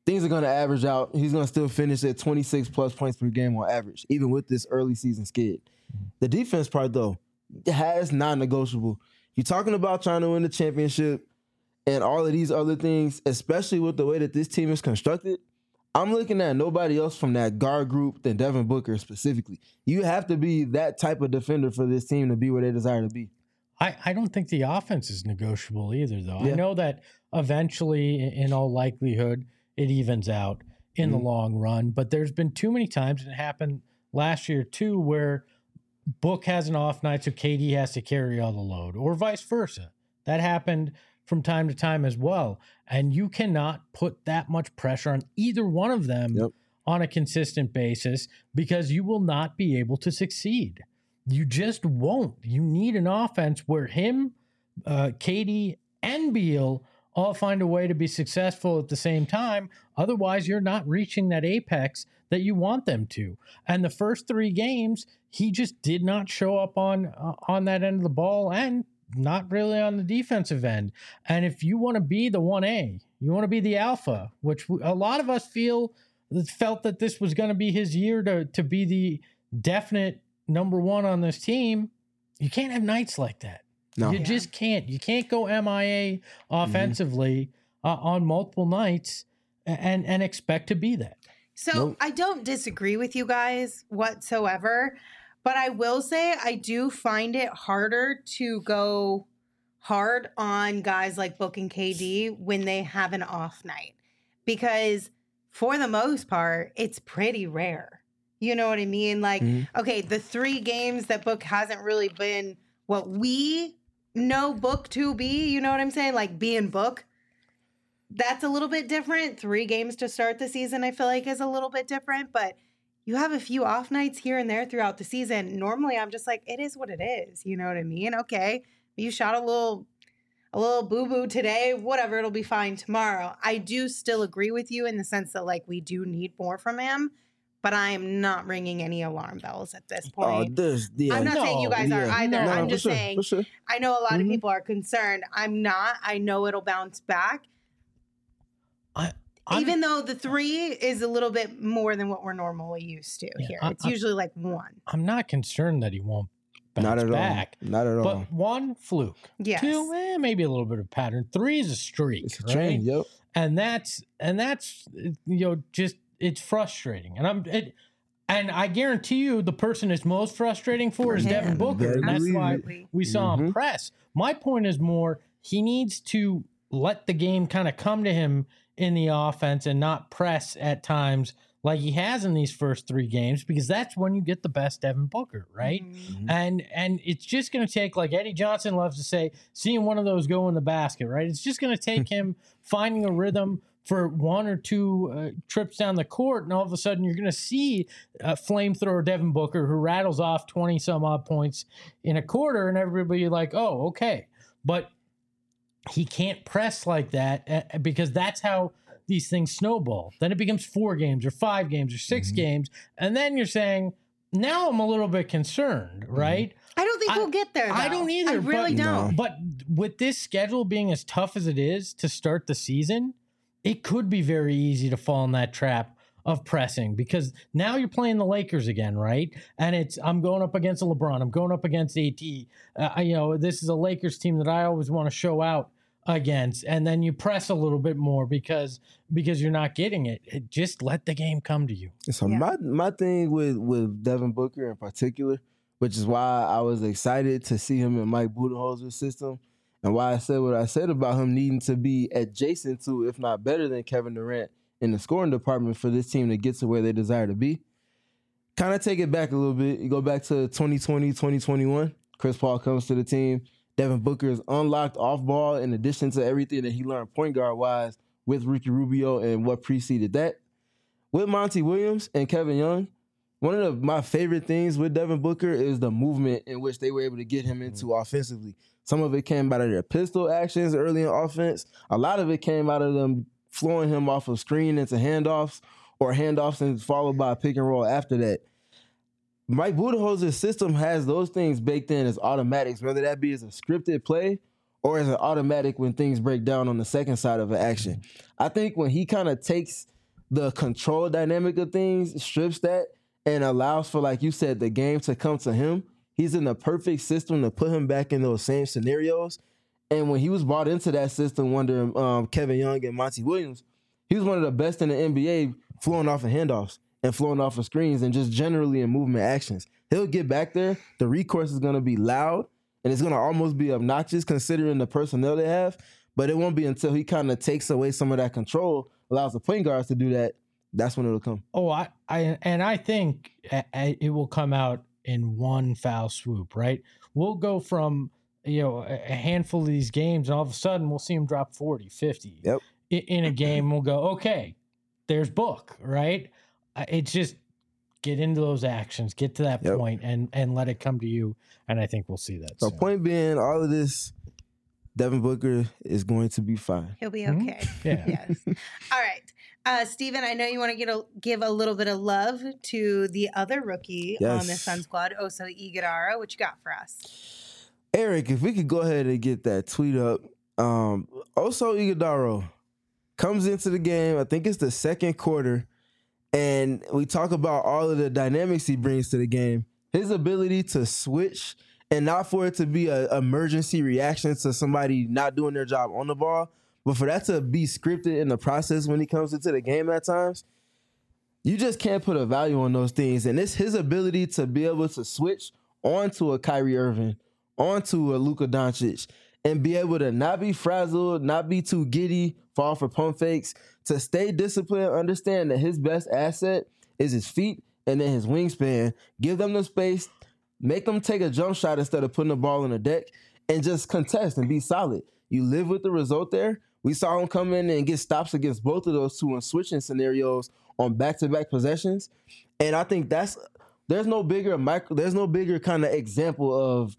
things are going to average out. He's going to still finish at twenty-six plus points per game on average, even with this early season skid. The defense part, though, has non-negotiable. You're talking about trying to win the championship and all of these other things, especially with the way that this team is constructed. I'm looking at nobody else from that guard group than Devin Booker specifically. You have to be that type of defender for this team to be where they desire to be. I, I don't think the offense is negotiable either, though. Yeah. I know that eventually, in all likelihood, it evens out in Mm-hmm. the long run. But there's been too many times, and it happened last year too, where Book has an off night, so K D has to carry all the load, or vice versa. That happened from time to time as well. And you cannot put that much pressure on either one of them Yep. on a consistent basis because you will not be able to succeed. You just won't. You need an offense where him, uh, K D, and Beal all find a way to be successful at the same time. Otherwise, you're not reaching that apex that you want them to. And the first three games, he just did not show up on uh, on that end of the ball and not really on the defensive end. And if you want to be the one A, you want to be the alpha, which a lot of us feel felt that this was going to be his year to to be the definite number one on this team, you can't have nights like that. No. You Yeah. just can't. You can't go M I A offensively uh, on multiple nights and and expect to be that. So Nope. I don't disagree with you guys whatsoever, but I will say I do find it harder to go hard on guys like Book and K D when they have an off night because for the most part, it's pretty rare. You know what I mean? Like, Mhm. okay, the three games that Book hasn't really been what we know Book to be, you know what I'm saying? Like being Book. That's a little bit different. Three games to start the season, I feel like, is a little bit different. But you have a few off nights here and there throughout the season. Normally, I'm just like, it is what it is. You know what I mean? Okay, you shot a little, a little boo boo today. Whatever, it'll be fine tomorrow. I do still agree with you in the sense that like we do need more from him, but I am not ringing any alarm bells at this Oh, point. this, yeah. I'm not saying you No, guys are yeah. either. No, I'm for just sure, saying for sure. I know a lot Mhm. of people are concerned. I'm not. I know it'll bounce back. I, I'm- Even though the three is a little bit more than what we're normally used to Yeah, here. I- It's I- usually like one. I'm not concerned that he won't bounce Not at back. all. Not at all. But one, fluke. Yes. Two, eh, maybe a little bit of pattern. Three is a streak, it's a right? train. Yep. And that's and that's you know just it's frustrating. And I'm it, and I guarantee you the person it's most frustrating for is For Devin him. Booker, Better and that's believe why it. we saw him Mhm. press. My point is more he needs to let the game kind of come to him in the offense and not press at times like he has in these first three games, because that's when you get the best Devin Booker, right? Mhm. And and it's just going to take, like Eddie Johnson loves to say, seeing one of those go in the basket, right? It's just going to take him finding a rhythm for one or two uh, trips down the court, and all of a sudden you're going to see a flamethrower Devin Booker who rattles off twenty some odd points in a quarter, and everybody like, oh, okay. But he can't press like that uh, because that's how these things snowball. Then it becomes four games or five games or 6 Mhm. games. And then you're saying, now I'm a little bit concerned, right? I don't think I- we'll get there. Though. I don't either, I really but- don't. But with this schedule being as tough as it is to start the season, it could be very easy to fall in that trap of pressing, because now you're playing the Lakers again, right? And it's I'm going up against a LeBron, I'm going up against A T. Uh, you know, this is a Lakers team that I always want to show out against, and then you press a little bit more because because you're not getting it. It just let the game come to you. So Yeah. my my thing with with Devin Booker in particular, which is why I was excited to see him in Mike Budenholzer's system, and why I said what I said about him needing to be adjacent to, if not better than, Kevin Durant in the scoring department for this team to get to where they desire to be. Kind of take it back a little bit. You go back to twenty twenty, twenty twenty-one. Chris Paul comes to the team. Devin Booker is unlocked off ball in addition to everything that he learned point guard wise with Ricky Rubio and what preceded that. With Monty Williams and Kevin Young, one of the, my favorite things with Devin Booker is the movement in which they were able to get him into offensively. Some of it came out of their pistol actions early in offense. A lot of it came out of them flowing him off of screen into handoffs, or handoffs and followed by a pick and roll after that. Mike Budenholzer's system has those things baked in as automatics, whether that be as a scripted play or as an automatic when things break down on the second side of an action. I think when he kind of takes the control dynamic of things, strips that, and allows for, like you said, the game to come to him. He's in the perfect system to put him back in those same scenarios. And when he was brought into that system under um, Kevin Young and Monty Williams, he was one of the best in the N B A flowing off of handoffs and flowing off of screens and just generally in movement actions. He'll get back there. The recourse is going to be loud, and it's going to almost be obnoxious considering the personnel they have, but it won't be until he kind of takes away some of that control, allows the point guards to do that, that's when it'll come. Oh, I, I and I think it will come out in one foul swoop, right? We'll go from, you know, a handful of these games, and all of a sudden we'll see him drop forty, fifty. Yep. In a game. We'll go, okay, there's Book, right? It's just get into those actions, get to that Yep. point, and and let it come to you, and I think we'll see that. So soon. point being, all of this, Devin Booker is going to be fine. He'll be Mhm. okay. Yeah. Yes. All right. Uh, Steven, I know you want to get a, give a little bit of love to the other rookie on the Yes. Sun squad, Oso Iguodala. What you got for us? Eric, if we could go ahead and get that tweet up. Um, Oso Iguodala comes into the game, I think it's the second quarter, and we talk about all of the dynamics he brings to the game. His ability to switch and not for it to be an emergency reaction to somebody not doing their job on the ball, but for that to be scripted in the process when he comes into the game at times, you just can't put a value on those things. And it's his ability to be able to switch onto a Kyrie Irving, onto a Luka Doncic, and be able to not be frazzled, not be too giddy, fall for pump fakes, to stay disciplined, understand that his best asset is his feet and then his wingspan. Give them the space, make them take a jump shot instead of putting the ball in the deck, and just contest and be solid. You live with the result there. We saw him come in and get stops against both of those two in switching scenarios on back-to-back possessions. And I think that's there's no bigger micro, there's no bigger kind of example of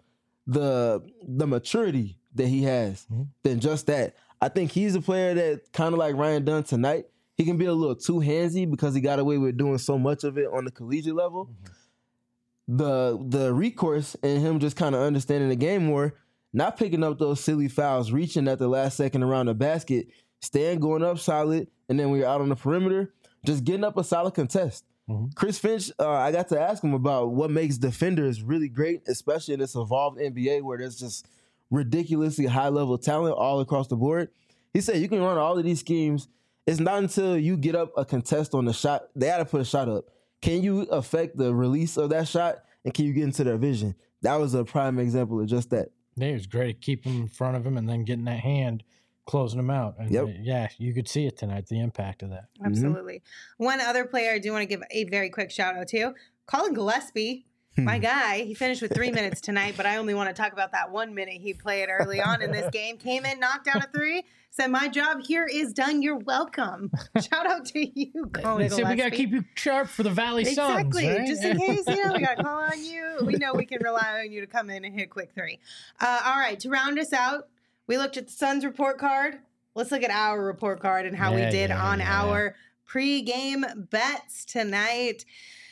the the maturity that he has mm-hmm. than just that. I think he's a player that kind of like Ryan Dunn tonight. He can be a little too handsy because he got away with doing so much of it on the collegiate level. Mm-hmm. The the recourse and him just kind of understanding the game more, not picking up those silly fouls, reaching at the last second around the basket, staying going up solid, and then when you're out on the perimeter, just getting up a solid contest. Mm-hmm. Chris Finch, uh, I got to ask him about what makes defenders really great, especially in this evolved N B A where there's just ridiculously high-level talent all across the board. He said you can run all of these schemes. It's not until you get up a contest on the shot, they got to put a shot up. Can you affect the release of that shot, and can you get into their vision? That was a prime example of just that. Yeah, it was great. Keep him in front of him and then getting that hand, closing him out. And yep. uh, yeah, you could see it tonight, the impact of that. Absolutely. Mm-hmm. One other player I do want to give a very quick shout out to, Colin Gillespie. My guy, he finished with three minutes tonight, but I only want to talk about that one minute he played early on in this game. Came in, knocked down a three, said, my job here is done. You're welcome. Shout out to you, Colin They Gillespie. said we got to keep you sharp for the Valley Suns. Exactly. Right? Just in case, you know, we got to call on you. We know we can rely on you to come in and hit a quick three. Uh, all right, to round us out, we looked at the Suns report card. Let's look at our report card and how yeah, we did yeah, on yeah. our pregame bets tonight.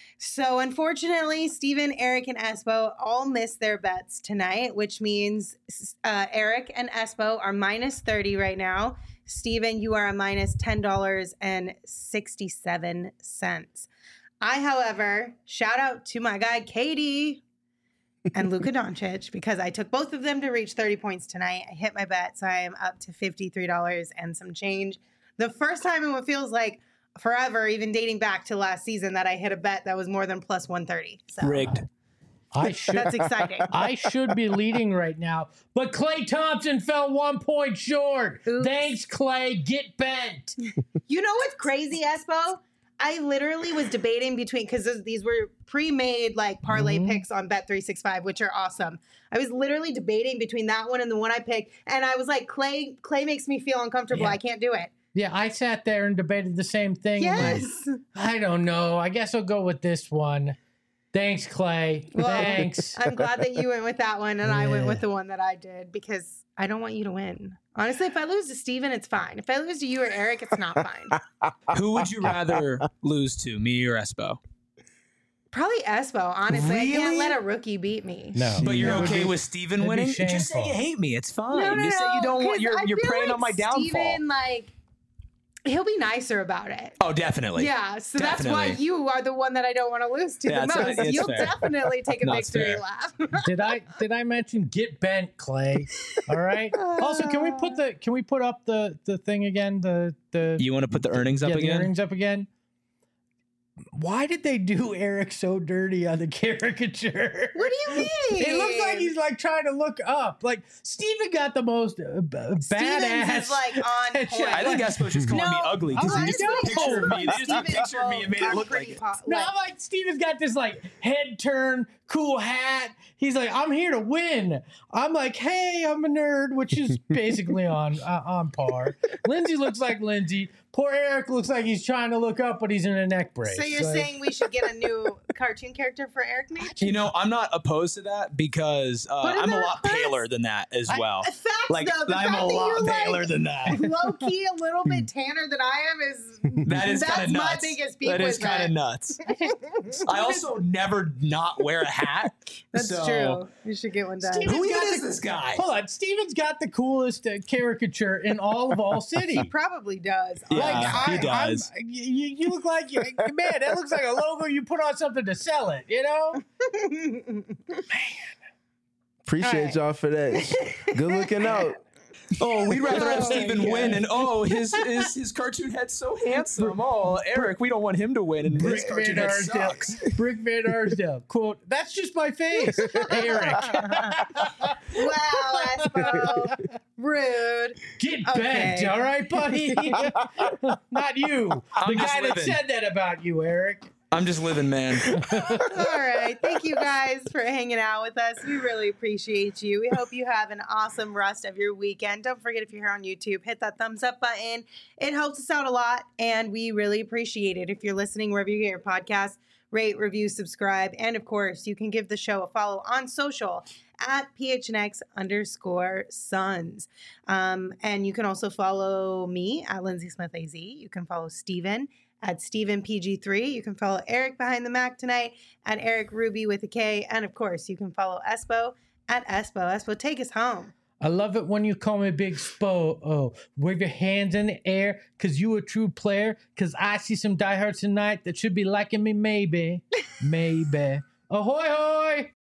So unfortunately, Steven, Eric, and Espo all missed their bets tonight, which means uh, Eric and Espo are minus thirty right now. Steven, you are a minus ten dollars and sixty-seven cents. I, however, shout out to my guy, Katie and Luka Doncic, because I took both of them to reach thirty points tonight. I hit my bet, so I am up to fifty-three dollars and some change. The first time in what feels like forever, even dating back to last season, that I hit a bet that was more than plus one thirty. So. Rigged. I should, That's exciting. I should be leading right now, but Klay Thompson fell one point short. Oops. Thanks, Klay. Get bent. You know what's crazy, Espo? I literally was debating between, because these were pre-made like parlay Mhm. picks on Bet three sixty-five, which are awesome. I was literally debating between that one and the one I picked, and I was like, Klay, Klay makes me feel uncomfortable. Yeah. I can't do it. Yeah, I sat there and debated the same thing. Yes. Like, I don't know. I guess I'll go with this one. Thanks, Klay. Well, Thanks. I'm glad that you went with that one, and I went Yeah. with the one that I did, because I don't want you to win. Honestly, if I lose to Steven, it's fine. If I lose to you or Eric, it's not fine. Who would you rather lose to, me or Espo? Probably Espo, honestly. I can't Really? let a rookie beat me. No. But you're It would okay be- with Steven it'd be winning? Just say shameful. you hate me. It's fine. No, no, Just say you no, don't want. 'cause You're I you're feel preying like on my downfall. Steven, like, he'll be nicer about it. Oh, definitely. Yeah, so Definitely. that's why you are the one that I don't want to lose to Yeah, the it's- most. it's You'll fair. definitely take a No, it's victory fair. laugh. Did I did I mention get bent, Clay? All right. Also, can we put the can we put up the the thing again? The the You want to put the earnings up yeah, the again? earrings up again. Why did they do Eric so dirty on the caricature? What do you mean? It looks like he's like trying to look up. Like Steven got the most uh, b- Stevens badass. is like on headshot. point. I think Espo's just calling me No, ugly because I he just know. took a picture of me. They just took a Stevens picture of me and made it are look pretty like it. po- No, like- I'm like Steven's got this like head turn, cool hat. He's like, I'm here to win. I'm like, hey, I'm a nerd, which is basically on uh, on par. Lindsay looks like Lindsay. Poor Eric looks like he's trying to look up, but he's in a neck brace. So you're Like, saying we should get a new cartoon character for Eric Nate? You know, I'm not opposed to that because uh, Put in I'm a that lot first. paler than that as well. Facts, Like, though. The I'm fact a that lot you're, like, paler than that. Low key, a little bit tanner than I am is That is that's kind of my nuts. biggest beef That is with kind of it. nuts. I also never not wear a hat. That's so- true. You should get one done. Steven's Who got even the- is this guy? Hold on, Steven's got the coolest uh, caricature in all of All City. He probably does. Yeah, Like, he I, does. I'm, you, you look like you, man. That looks like a logo you put on something to sell it. You know. Appreciate All right. y'all for that. Good looking out. Oh, we'd rather have Oh, Steven yeah. win, and oh, his his his cartoon head's so handsome. Oh, Eric, we don't want him to win, and his Brick cartoon Van head Arsdale. sucks. Brick Van Arsdale. Quote, that's just my face. Eric. Wow, Espo. Rude. Get Okay. bent, all right, buddy? Not you. I'm the just guy that living. said that about you, Eric. I'm just living, man. All right. Thank you guys for hanging out with us. We really appreciate you. We hope you have an awesome rest of your weekend. Don't forget, if you're here on YouTube, hit that thumbs up button. It helps us out a lot, and we really appreciate it. If you're listening wherever you get your podcast, rate, review, subscribe, and of course, you can give the show a follow on social at P H N X underscore Sons. Um, and you can also follow me at Lindsay Smith A Z. You can follow Steven at Steven P G three. You can follow Eric Behind the Mac tonight at Eric Ruby with a K. And of course, you can follow Espo at Espo. Espo, take us home. I love it when you call me Big Spo. Oh, wave your hands in the air, cause you a true player. Cause I see some diehards tonight that should be liking me, maybe, maybe. Ahoy, hoy!